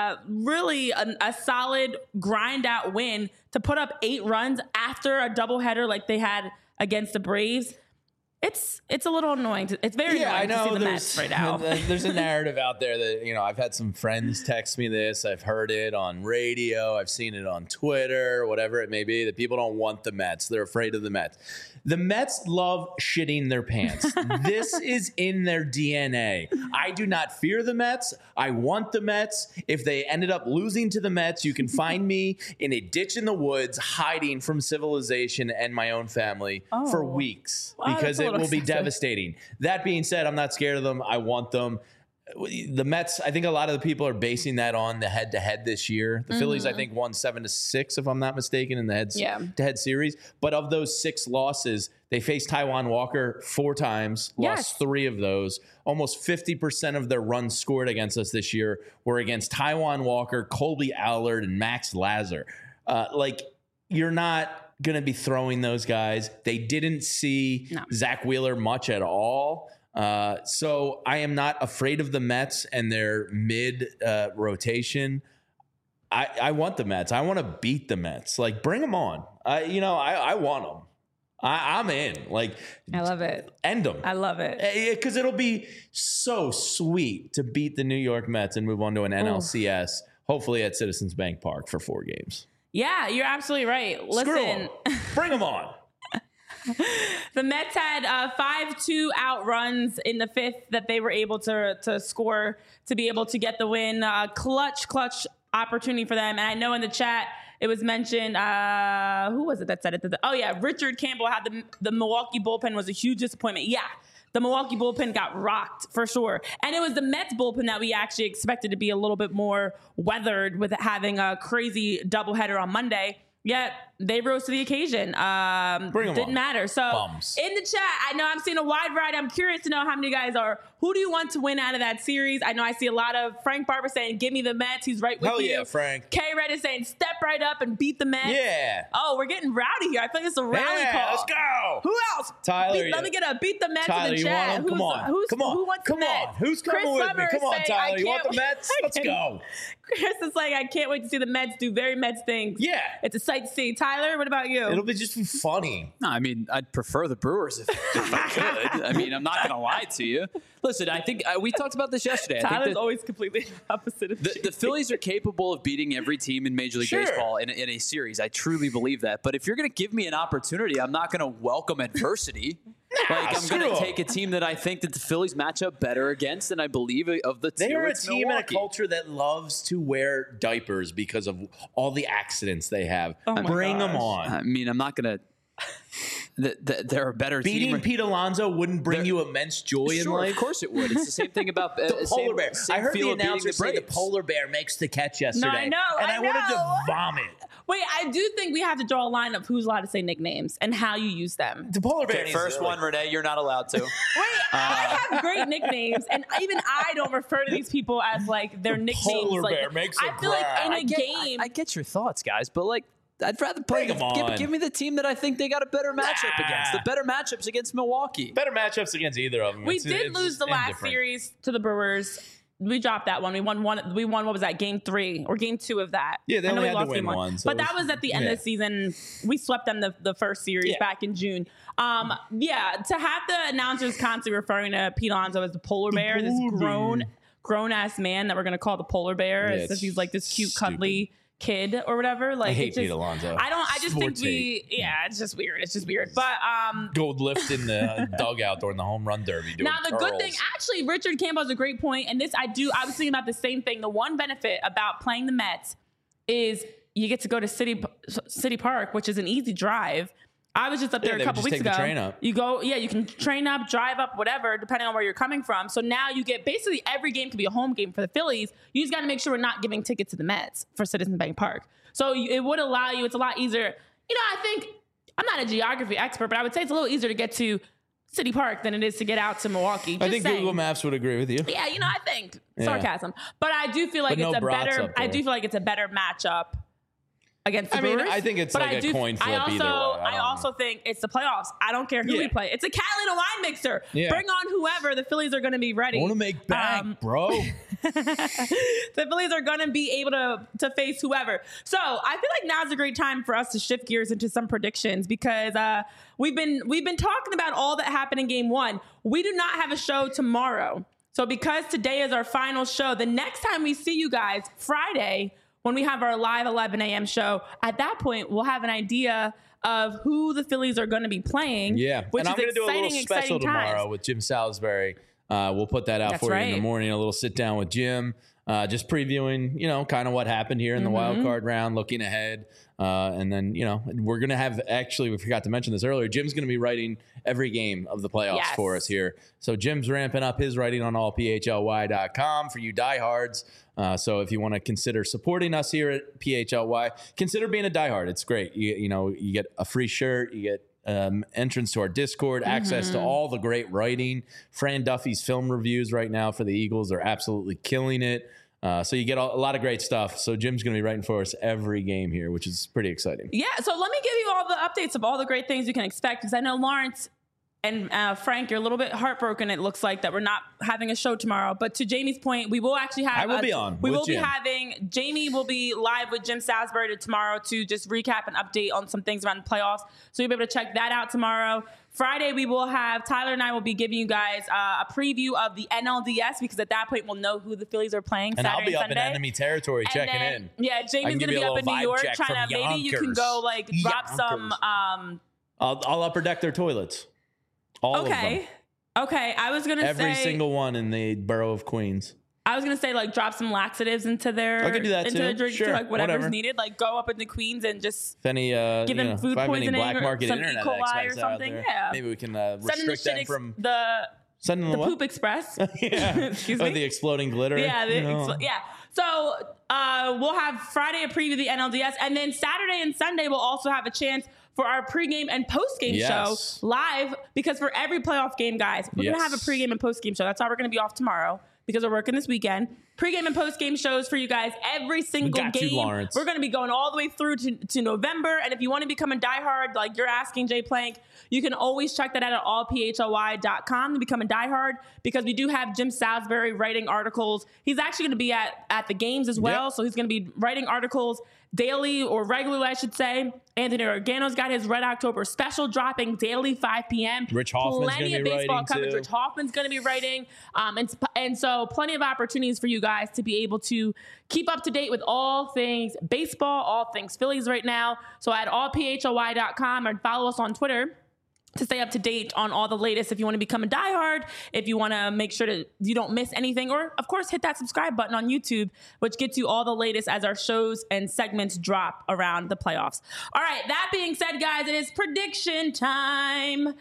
really a solid grind out win to put up 8 runs after a doubleheader like they had against the Braves. It's a little annoying. It's very annoying to see the Mets right now.
There's a narrative out there that, I've had some friends text me this. I've heard it on radio. I've seen it on Twitter, whatever it may be, that people don't want the Mets. They're afraid of the Mets. The Mets love shitting their pants. This is in their DNA. I do not fear the Mets. I want the Mets. If they ended up losing to the Mets, you can find me in a ditch in the woods hiding from civilization and my own family for weeks because it will be devastating. That being said, I'm not scared of them. I want them. The Mets, I think a lot of the people are basing that on the head-to-head this year. The Phillies, I think, won 7-6, if I'm not mistaken, in the head-to-head series. But of those 6 losses, they faced Taijuan Walker 4 times, lost 3 of those. Almost 50% of their runs scored against us this year were against Taijuan Walker, Colby Allard, and Max Lazar. You're not going to be throwing those guys. They didn't see Zach Wheeler much at all. So I am not afraid of the Mets and their mid rotation. I want the Mets. I want to beat the Mets. Like, bring them on. I want them. I'm in. Like,
I love it.
End them.
I love it.
Because it'll be so sweet to beat the New York Mets and move on to an NLCS. hopefully at Citizens Bank Park for 4 games.
Yeah, you're absolutely right. Listen,
Bring them on.
the Mets had 5-2 outruns in the 5th that they were able to score to be able to get the win. Clutch opportunity for them. And I know in the chat it was mentioned, who was it that said it? Oh, yeah, Richard Campbell had the Milwaukee bullpen was a huge disappointment. Yeah, the Milwaukee bullpen got rocked for sure. And it was the Mets bullpen that we actually expected to be a little bit more weathered with having a crazy doubleheader on Monday. Yet they rose to the occasion. Didn't matter. So in the chat, I know I'm seeing a wide variety. I'm curious to know how many guys are. Who do you want to win out of that series? I know I see a lot of Frank Barber saying, "Give me the Mets." He's right with you.
Hell yeah, Frank.
K Red is saying, "Step right up and beat the Mets."
Yeah.
Oh, we're getting rowdy here. I feel like it's a rally call.
Let's go.
Who else?
Tyler.
Let me get a beat the Mets
Tyler,
in the chat.
Come on.
Who wants the Mets?
Who's coming
Chris
with
Summer
me? Come on,
saying,
Tyler. You want the Mets? Let's go.
Chris is like, I can't wait to see the Mets do very Mets things.
Yeah.
It's a sight to see. Tyler, what about you?
It'll be just be funny.
No, I mean, I'd prefer the Brewers if I could. I mean, I'm not going to lie to you. Listen, I think we talked about this yesterday.
Tyler's always completely opposite of
the Phillies are capable of beating every team in Major League Baseball in a series. I truly believe that. But if you're going to give me an opportunity, I'm not going to welcome adversity. I'm going to take a team that I think that the Phillies match up better against, and I believe of the two.
They are a team
Milwaukee.
and a culture that loves to wear diapers because of all the accidents they have. Bring them on.
I mean, I'm not going to. They're a better team.
Beating Pete Alonso wouldn't bring you immense joy in life.
Of course it would. It's the same thing about
the polar bear. I heard the announcer say the
Braves.
polar bear makes the catch yesterday.
No, I know.
And I wanted to vomit.
Wait, I do think we have to draw a line of who's allowed to say nicknames and how you use them.
The polar bear.
First one, Renee, you're not allowed to.
Wait, I have great nicknames, and even I don't refer to these people as like their nicknames.
Polar
like,
bear makes
I feel like in a game.
I get your thoughts, guys, but like, I'd rather play. Give me the team that I think they got a better matchup against. The better matchups against Milwaukee.
Better matchups against either of them.
We did lose the last series to the Brewers. We dropped that one. We won one. We won. What was that? Game 3 or game 2 of that?
Yeah, they
I know
only
we
had to
lost
win
game
one. So
but that was at the end of the season. We swept them the first series back in June. To have the announcers constantly referring to Pete Alonso as the polar bear, this grown ass man that we're gonna call the polar bear, as if he's like this cute, cuddly kid or whatever. Like,
I hate Pete Alonso.
I just think it's just weird. It's just weird. But
gold lift in the dugout during the home run derby. Doing
now the
curls.
good thing, actually, Richard Campbell has a great point, and I was thinking about the same thing. The one benefit about playing the Mets is you get to go to City Park, which is an easy drive. I was just up there a couple weeks ago.
Train up.
You go, you can train up, drive up, whatever, depending on where you're coming from. So now you get basically every game could be a home game for the Phillies. You just got to make sure we're not giving tickets to the Mets for Citizens Bank Park. So it would allow you. It's a lot easier. I think I'm not a geography expert, but I would say it's a little easier to get to City Park than it is to get out to Milwaukee.
I think Google Maps would agree with you.
Yeah, I think sarcasm, but I do feel like it's a better. I do feel like it's a better matchup against the Brewers.
I think it's like a coin flip either way.
I also think it's the playoffs. I don't care who we play. It's a Catalina wine mixer.
Yeah.
Bring on whoever. The Phillies are going to be ready.
I want to make bank, bro.
The Phillies are going to be able to face whoever. So I feel like now's a great time for us to shift gears into some predictions because we've been talking about all that happened in Game 1. We do not have a show tomorrow. So because today is our final show, the next time we see you guys, Friday, when we have our live 11 a.m. show, at that point, we'll have an idea of who the Phillies are going to be playing.
Yeah,
which
and I'm going to do a little special tomorrow
times.
with Jim Salisbury. We'll put that out for you in the morning, a little sit down with Jim, just previewing, kind of what happened here in the wild card round, looking ahead. And then, we're going to have, actually, we forgot to mention this earlier, Jim's going to be writing every game of the playoffs for us here. So Jim's ramping up his writing on allphly.com for you diehards. So if you want to consider supporting us here at PHLY, consider being a diehard. It's great. You get a free shirt, you get entrance to our Discord, access to all the great writing. Fran Duffy's film reviews right now for the Eagles are absolutely killing it. So you get a lot of great stuff. So Jim's going to be writing for us every game here, which is pretty exciting.
Yeah. So let me give you all the updates of all the great things you can expect because I know Lawrence And Frank, you're a little bit heartbroken. It looks like that we're not having a show tomorrow. But to Jamie's point, we will actually have.
I will be on.
We
with
will
Jim.
be having. Jamie will be live with Jim Salisbury tomorrow to just recap and update on some things around the playoffs. So you'll be able to check that out tomorrow. Friday, we will have Tyler and I will be giving you guys a preview of the NLDS because at that point we'll know who the Phillies are playing.
And
Saturday
I'll be up
Sunday.
in enemy territory
And
checking
then,
in.
Yeah, Jamie's
give
gonna
you
be
a
up in
little
New
vibe
York
check
trying to.
from
Maybe you can
Yonkers.
go like drop
Yonkers.
some.
I'll upper deck their toilets. All of them.
Okay. I was gonna
Every
say
single one in the borough of Queens.
I was gonna say like drop some laxatives into their
I could do that
into
too.
their drinks
Sure,
too, like whatever's
whatever.
needed. Like go up into Queens and just
If any,
give them food
if I have any
poisoning
black
or
market
some
internet
E. coli or
experts out
something.
there,
Yeah.
maybe we can
send them the
restrict them from sending them
the
what?
Poop Express.
Yeah.
Excuse
Oh,
me.
the exploding glitter.
Yeah,
you know.
yeah. So we'll have Friday a preview of the NLDS, and then Saturday and Sunday we'll also have a chance for our pregame and postgame
Yes.
show live because for every playoff game, guys, we're gonna have a
Yes.
pregame and postgame show. That's how we're gonna be off tomorrow because we're working this weekend. Pregame and postgame shows for you guys every single
got you,
game.
Lawrence.
We're gonna be going all the way through to November, and if you want to become a diehard, like you're asking Jay Plank, you can always check that out at allphly.com to become a diehard because we do have Jim Salisbury writing articles. He's actually going to be at the games as well,
Yep.
so he's going to be writing articles daily or regularly, I should say. Anthony Organo's got his Red October special dropping daily 5 p.m.
Rich Hoffman's
Plenty
gonna
of
be
baseball
writing,
coverage.
too.
Rich Hoffman's going to be writing, and so plenty of opportunities for you guys to be able to keep up to date with all things baseball, all things Phillies right now. So at allphly.com and follow us on Twitter to stay up to date on all the latest. If you want to become a diehard, if you want to make sure that you don't miss anything, or of course hit that subscribe button on YouTube, which gets you all the latest as our shows and segments drop around the playoffs. All right, that being said, guys, it is prediction time.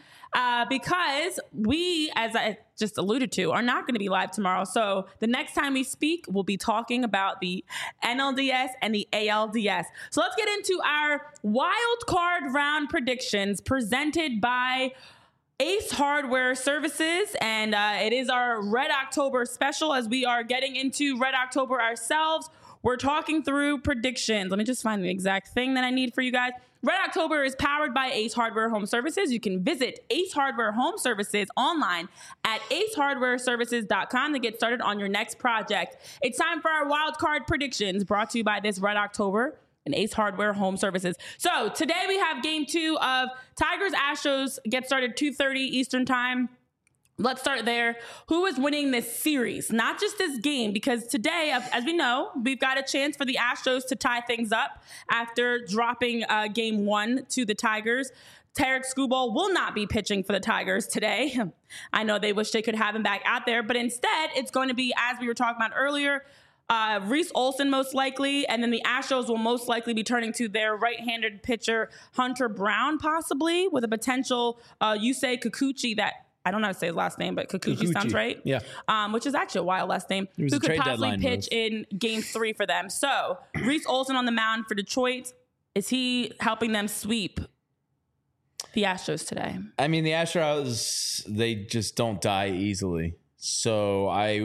Because we, as I just alluded to, are not going to be live tomorrow. So the next time we speak, we'll be talking about the NLDS and the ALDS. So let's get into our wild card round predictions presented by Ace Hardware Services, and it is our Red October special as we are getting into Red October ourselves. We're talking through predictions. Let me just find the exact thing that I need for you guys. Red October is powered by Ace Hardware Home Services. You can visit Ace Hardware Home Services online at acehardwareservices.com to get started on your next project. It's time for our wild card predictions brought to you by this Red October and Ace Hardware Home Services. So today we have game 2 of Tigers Astros. Get started 2:30 Eastern time. Let's start there. Who is winning this series? Not just this game, because today, as we know, we've got a chance for the Astros to tie things up after dropping game 1 to the Tigers. Tarek Skubal will not be pitching for the Tigers today. I know they wish they could have him back out there, but instead it's going to be, as we were talking about earlier, Reese Olson most likely, and then the Astros will most likely be turning to their right-handed pitcher, Hunter Brown, possibly, with a potential Yusei Kikuchi that I don't know how to say his last name, but Kikuchi sounds right.
Yeah.
Which is actually a wild last name.
was
Who
a
could
trade
possibly
deadline
pitch in game 3 for them. So Reese Olson on the mound for Detroit. Is he helping them sweep the Astros today?
I mean, the Astros, they just don't die easily. So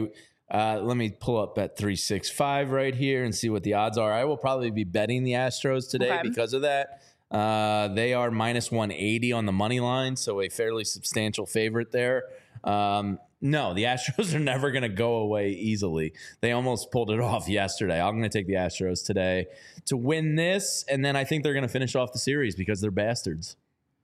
let me pull up Bet365 right here and see what the odds are. I will probably be betting the Astros today
Okay.
because of that. They are minus 180 on the money line, so a fairly substantial favorite there. No, the Astros are never going to go away easily. They almost pulled it off yesterday. I'm going to take the Astros today to win this, and then I think they're going to finish off the series because they're bastards.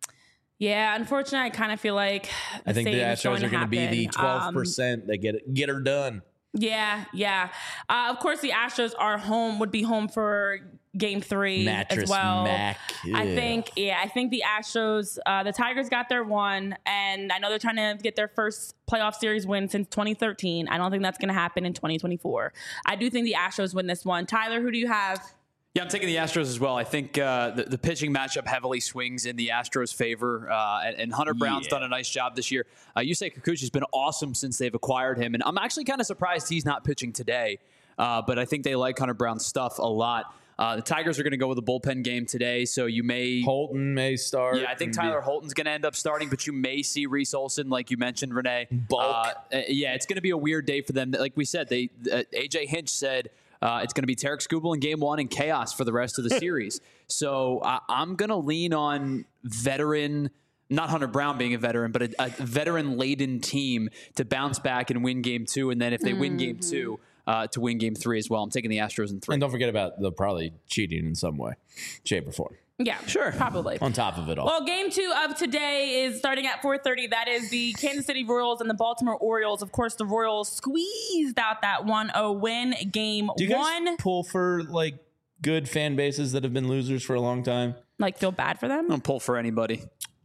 Yeah, unfortunately, I kind of feel like
I think the
same is
Astros are going to be the
happen.
12% that get her done.
Yeah. Of course, the Astros would be home for game 3
Mattress
as well.
Mac.
I
Yeah.
think the Astros, the Tigers got their one, and I know they're trying to get their first playoff series win since 2013. I don't think that's going to happen in 2024. I do think the Astros win this one. Tyler, who do you have?
Yeah, I'm taking the Astros as well. I think the pitching matchup heavily swings in the Astros' favor, and Hunter Brown's done a nice job this year. Yusei Kikuchi's been awesome since they've acquired him, and I'm actually kind of surprised he's not pitching today, but I think they like Hunter Brown's stuff a lot. The Tigers are going to go with a bullpen game today, so you may...
Holton may start.
Yeah, I think Tyler Holton's going to end up starting, but you may see Reese Olson, like you mentioned, Renee.
Bulk.
Yeah, it's going to be a weird day for them. Like we said, AJ Hinch said... it's going to be Tarek Skubal in game 1 and chaos for the rest of the series. So I'm going to lean on veteran not Hunter Brown being a veteran, but a veteran-laden team to bounce back and win game 2. And then if they win game 2, to win game 3 as well. I'm taking the Astros in 3.
And don't forget about they'll probably cheating in some way, shape, or form.
Yeah, sure. Probably.
On top of it all.
Well, game 2 of today is starting at 4:30. That is the Kansas City Royals and the Baltimore Orioles. Of course, the Royals squeezed out that 1-0 win. Game
Do you guys
1.
pull for like good fan bases that have been losers for a long time?
Like, feel bad for them?
I don't pull for anybody.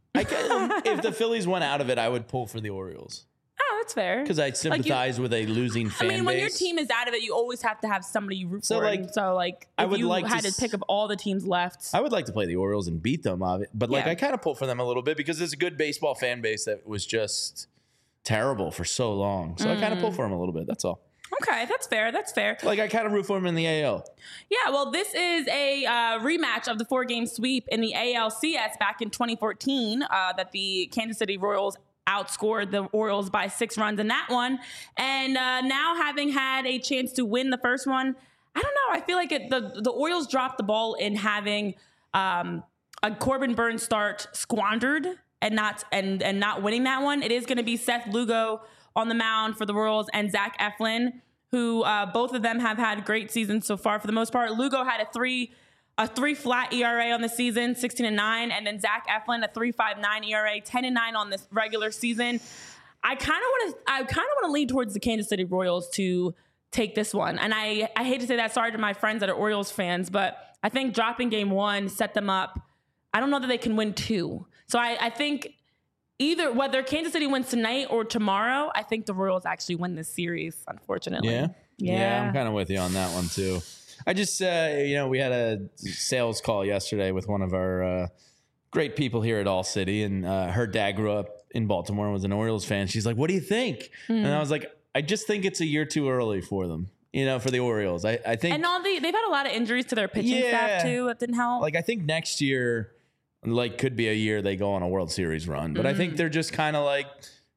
If the Phillies went out of it, I would pull for the Orioles.
Oh, that's fair.
Because I sympathize with a losing fan base.
When your team is out of it, you always have to have somebody you root for.
Like,
So, if you had to
to
pick up all the teams left.
I would like to play the Orioles and beat them, but
Yeah.
I kind of pull for them a little bit because it's a good baseball fan base that was just terrible for so long. So I kind of pull for them a little bit. That's all.
Okay, that's fair. That's fair.
Like I kind of root for them in the AL.
Yeah, well, this is a rematch of the 4-game sweep in the ALCS back in 2014 that the Kansas City Royals outscored the Orioles by 6 runs in that one. And now having had a chance to win the first one, I don't know. I feel like the Orioles dropped the ball in having a Corbin Burns start squandered and not winning that one. It is going to be Seth Lugo on the mound for the Royals and Zach Eflin, who both of them have had great seasons so far for the most part. Lugo had a 3 flat ERA on the season, 16-9, and then Zach Eflin a 3.59 ERA, 10-9 on this regular season. I kind of want to lean towards the Kansas City Royals to take this one, and I hate to say that. Sorry to my friends that are Orioles fans, but I think dropping game 1 set them up. I don't know that they can win 2, so I think. Either whether Kansas City wins tonight or tomorrow, I think the Royals actually win this series, unfortunately.
Yeah, I'm kind of with you on that one too. I just, we had a sales call yesterday with one of our great people here at All City, and her dad grew up in Baltimore and was an Orioles fan. She's like, "What do you think?" And I was like, "I just think it's a year too early for them, for the Orioles. I think."
And they've had a lot of injuries to their pitching staff too. That didn't help.
Like I think next year. Could be a year they go on a World Series run. But I think they're just kind of like,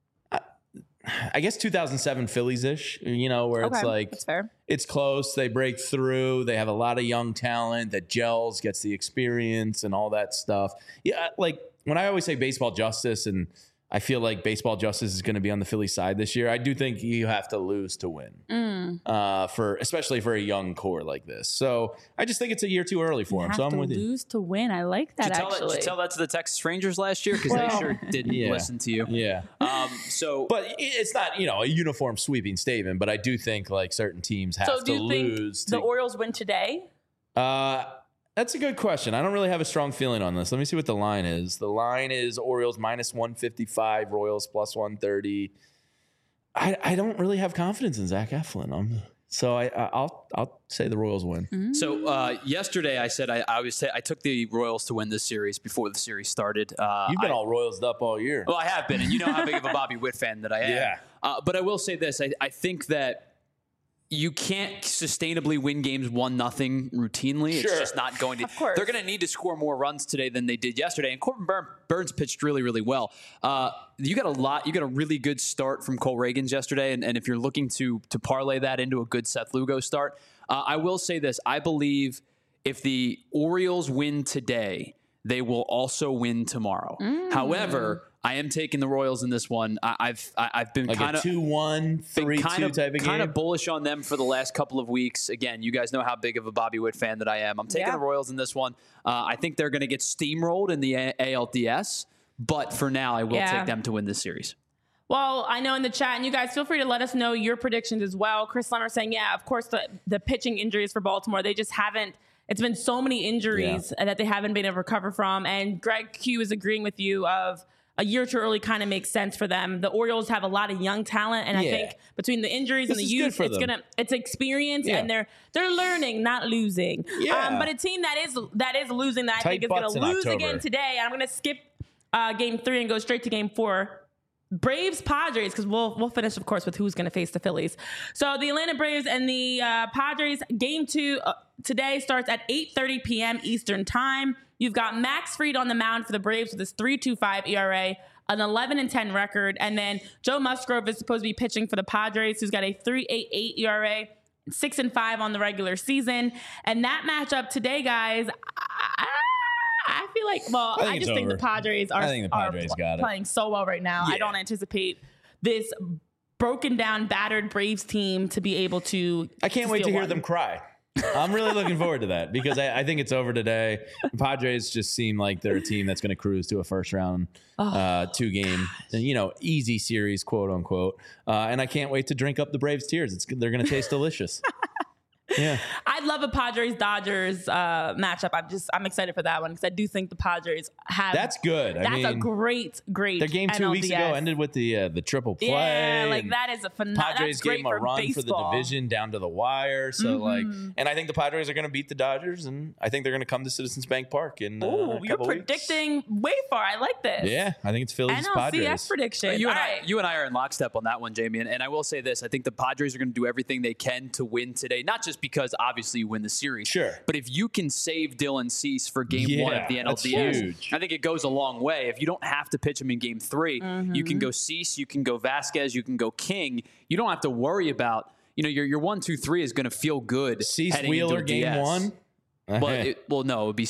I guess 2007 Phillies-ish, where it's like,
that's fair.
It's close. They break through. They have a lot of young talent that gels, gets the experience and all that stuff. Yeah, like when I always say baseball justice, and I feel like baseball justice is going to be on the Philly side this year, I do think you have to lose to win, especially for a young core like this. So I just think it's a year too early for them. So I'm with you.
Lose to win. I like that.
Did you tell that to the Texas Rangers last year? Because they sure didn't listen to you.
Yeah.
But
it's not a uniform sweeping statement. But I do think like certain teams have
So do
to
you
lose.
think the Orioles win today?
That's a good question. I don't really have a strong feeling on this. Let me see what the line is. The line is Orioles -155, Royals +130. I don't really have confidence in Zach Eflin. So I'll say the Royals win.
So yesterday I said I took the Royals to win this series before the series started.
You've been all Royals up all year.
Well, I have been, and you know how big of a Bobby Witt fan that I am.
Yeah.
But I will say this: I think that you can't sustainably win games 1-0 routinely. It's just not going to.
Of course.
They're going to need to score more runs today than they did yesterday. And Corbin Burns pitched really, really well. You got a really good start from Cole Reagans yesterday. And if you're looking to parlay that into a good Seth Lugo start, I will say this. I believe if the Orioles win today, they will also win tomorrow. However, I am taking the Royals in this one. I've been
like
kind of
2-1, 3-2 type of game.
Kind of bullish on them for the last couple of weeks. Again, you guys know how big of a Bobby Witt fan that I am. I'm taking the Royals in this one. I think they're going to get steamrolled in the ALDS, but for now, I will take them to win this series.
Well, I know in the chat, and you guys feel free to let us know your predictions as well. Chris Lemmer saying, of course, the pitching injuries for Baltimore, they just haven't. It's been so many injuries that they haven't been able to recover from. And Greg Q is agreeing with you of a year too early kind of makes sense for them. The Orioles have a lot of young talent, and I think between the injuries and the youth, it's experience, and they're learning, not losing. But a team that is losing, that I think is going to lose again today. And I'm going to skip game 3 and go straight to game 4. Braves Padres, because we'll finish, of course, with who's going to face the Phillies. So the Atlanta Braves and the Padres, game 2 today starts at 8:30 p.m. Eastern time. You've got Max Fried on the mound for the Braves with his 3.25 ERA, an 11-10 record, and then Joe Musgrove is supposed to be pitching for the Padres, who's got a 3.88 ERA, 6-5 on the regular season. And that matchup today, guys, I feel like, well,
I think
I
it's
just think the
over.
Padres are,
I think the Padres got it.
playing so well right now.
Yeah.
I don't anticipate this broken down, battered Braves team to be able to.
I can't wait to
steal
hear
one.
them cry. I'm really looking forward to that because I think it's over today. The Padres just seem like they're a team that's going to cruise to a first round, 2-game, easy series, quote unquote. And I can't wait to drink up the Braves' tears. They're going to taste delicious. Yeah.
I'd love a Padres Dodgers matchup. I'm excited for that one because I do think the Padres have.
That's good.
That's a great.
Their game 2 weeks ago ended with the triple play.
Yeah, like
and
that is a phenomenal.
Padres
That's great
gave them a
for
run
baseball.
for the division down to the wire. So and I think the Padres are going to beat the Dodgers, and I think they're going to come to Citizens Bank Park in
Oh,
a
you're
couple
predicting way far. I like this.
weeks. Yeah, I think it's Phillies Padres.
NLCS prediction.
You
All
and,
right.
you and I are in lockstep on that one, Jamie. And I will say this. I think the Padres are going to do everything they can to win today, not just because obviously you win the series.
Sure.
But if you can save Dylan Cease for game 1 of the
that's
NLDS,
huge.
I think it goes a long way. If you don't have to pitch him in game 3, you can go Cease, you can go Vasquez, you can go King. You don't have to worry about, your 1, 2, 3 is going to feel good.
Cease
heading
Wheeler
into
game
DS.
1.
No, it would be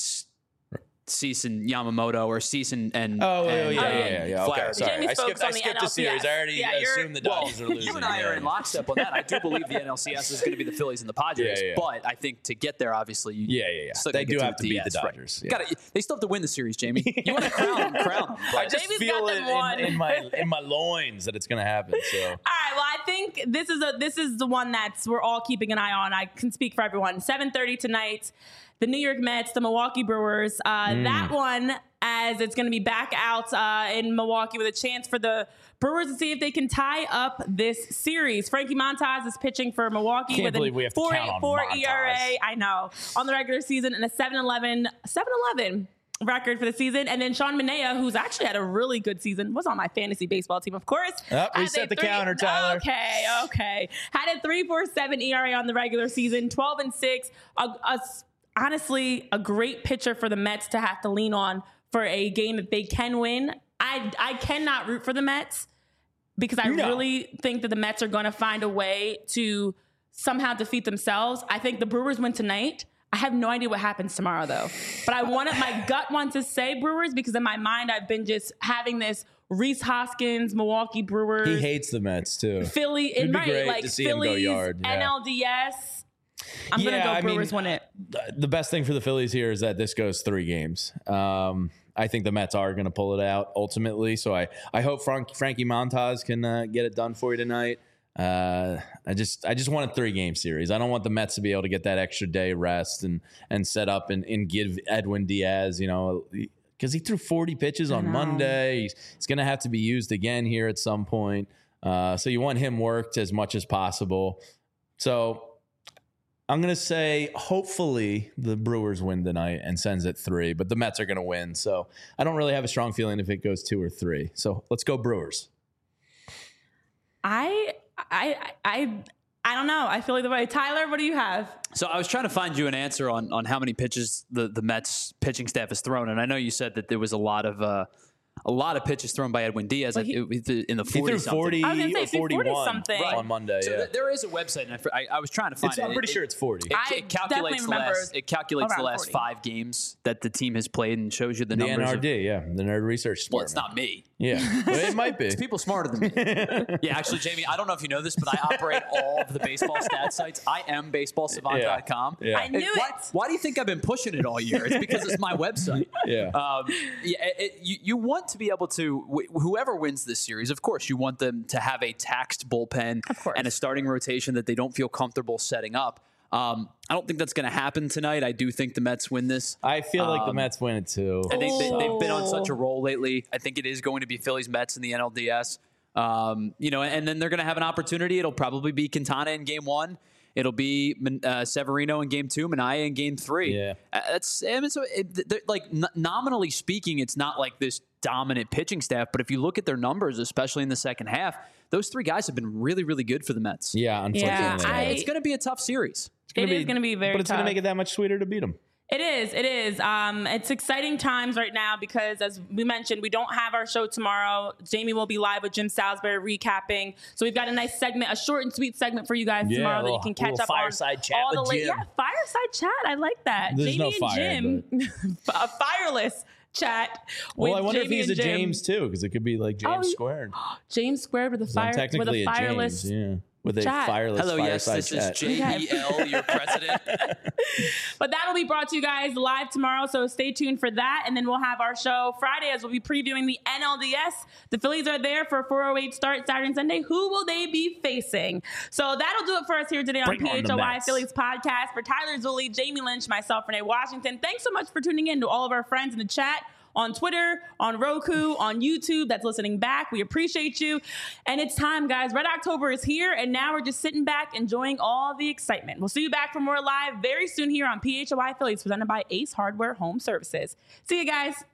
Cease and Yamamoto or Cease and
yeah. Okay,
Flaherty.
sorry.
Jamie
I
spoke on the
skipped the series.
NLCS.
I already
Yeah, you're-
assumed the Dodgers are losing.
You and I are in lockstep on that. I do believe the NLCS is going to be the Phillies and the Padres,
Yeah.
but I think to get there, obviously, you
They
still gotta
do
get
have to beat the
DS, right?
Dodgers. Yeah.
They still have to win the series, Jamie. You want to crown them.
I just
Jamie's
feel
got
it
them won.
in my loins that it's going to happen. So
All right. Well, I think this is the one that's we're all keeping an eye on. I can speak for everyone. 7:30 tonight. The New York Mets, the Milwaukee Brewers. That one, as it's going to be back out in Milwaukee with a chance for the Brewers to see if they can tie up this series. Frankie Montas is pitching for Milwaukee
Can't
with a
believe we have to count on
4.84
Montas.
ERA. I know, on the regular season and a 7.11 record for the season. And then Sean Manaea, who's actually had a really good season, was on my fantasy baseball team, of course.
Reset the counter, Tyler.
Okay. Had a 3.47 ERA on the regular season, 12-6. Honestly, a great pitcher for the Mets to have to lean on for a game that they can win. I cannot root for the Mets because I really think that the Mets are going to find a way to somehow defeat themselves. I think the Brewers win tonight. I have no idea what happens tomorrow, though. But my gut wants to say Brewers because in my mind, I've been just having this Rhys Hoskins, Milwaukee Brewers.
he hates the Mets too.
Philly,
It'd be
right?
great
Like
to see him go
Phillies,
yard. Yeah.
NLDS. I'm gonna go Brewers win it.
The best thing for the Phillies here is that this goes 3 games. I think the Mets are going to pull it out ultimately. So I hope Frankie Montas can get it done for you tonight. I just want a 3-game series. I don't want the Mets to be able to get that extra day rest and set up and give Edwin Diaz, because he threw 40 pitches on Monday. He's going to have to be used again here at some point. So you want him worked as much as possible. So I'm going to say hopefully the Brewers win tonight and sends it 3, but the Mets are going to win. So I don't really have a strong feeling if it goes 2 or 3. So let's go Brewers.
I don't know. I feel like the way. Tyler, what do you have?
So I was trying to find you an answer on how many pitches the Mets pitching staff has thrown, and I know you said that there was a lot of pitches thrown by Edwin Diaz in the 40s.
He threw 40
I was gonna say,
or 41
something.
on Monday.
So
Yeah.
there is a website, and I was trying to find it.
I'm pretty sure it's 40.
It calculates the last. It calculates the
around
last
40.
5 games that the team has played and shows you the
The
numbers.
NRD, the Nerd Research Department.
Well, it's not me.
Yeah, well, it might be.
It's people smarter than me. Yeah, actually, Jamie, I don't know if you know this, but I operate all of the baseball stat sites. I am baseballsavant.com.
Yeah.
I knew it.
Why do you think I've been pushing it all year? It's because it's my website.
Yeah.
You want to be able to, whoever wins this series, of course, you want them to have a taxed bullpen and a starting rotation that they don't feel comfortable setting up. I don't think that's going to happen tonight. I do think the Mets win this.
I feel like the Mets win it too.
I think they've been on such a roll lately. I think it is going to be Phillies Mets in the NLDS. And then they're going to have an opportunity. It'll probably be Quintana in game 1. It'll be Severino in game 2, Manaea in game 3.
Yeah.
Nominally speaking, it's not like this dominant pitching staff, but if you look at their numbers, especially in the second half, those 3 guys have been really, really good for the Mets.
Yeah, unfortunately.
Yeah,
It's going to be a tough series.
It is going to be very
But it's
tough.
going to make it that much sweeter to beat them.
It is. It's exciting times right now because, as we mentioned, we don't have our show tomorrow. Jamie will be live with Jim Salisbury recapping. So we've got a nice segment, a short and sweet segment for you guys tomorrow that you can catch up
fireside
on.
chat
All
with
the
Jim.
Yeah, fireside chat. I like that.
There's
Jamie
no
and
fire,
Jim, a fireless chat.
Well,
with
I wonder
Jamie
if he's a
and Jim.
James too, because it could be like James
Oh,
squared.
James squared with a
I'm technically a
fireless.
James, with a
chat.
fireless
Hello, yes,
fireside
this
chat.
is JBL, your president.
But that'll be brought to you guys live tomorrow, so stay tuned for that. And then we'll have our show Friday as we'll be previewing the NLDS. The Phillies are there for a 4:08 start Saturday and Sunday. Who will they be facing? So that'll do it for us here today on
Bring on the
PHOI
Mets.
Phillies podcast. For Tyler Zulli, Jamie Lynch, myself, Renee Washington, thanks so much for tuning in to all of our friends in the chat. On Twitter, on Roku, on YouTube, that's listening back. We appreciate you. And it's time, guys. Red October is here, and now we're just sitting back enjoying all the excitement. We'll see you back for more live very soon here on PHOI Phillies, presented by Ace Hardware Home Services. See you guys.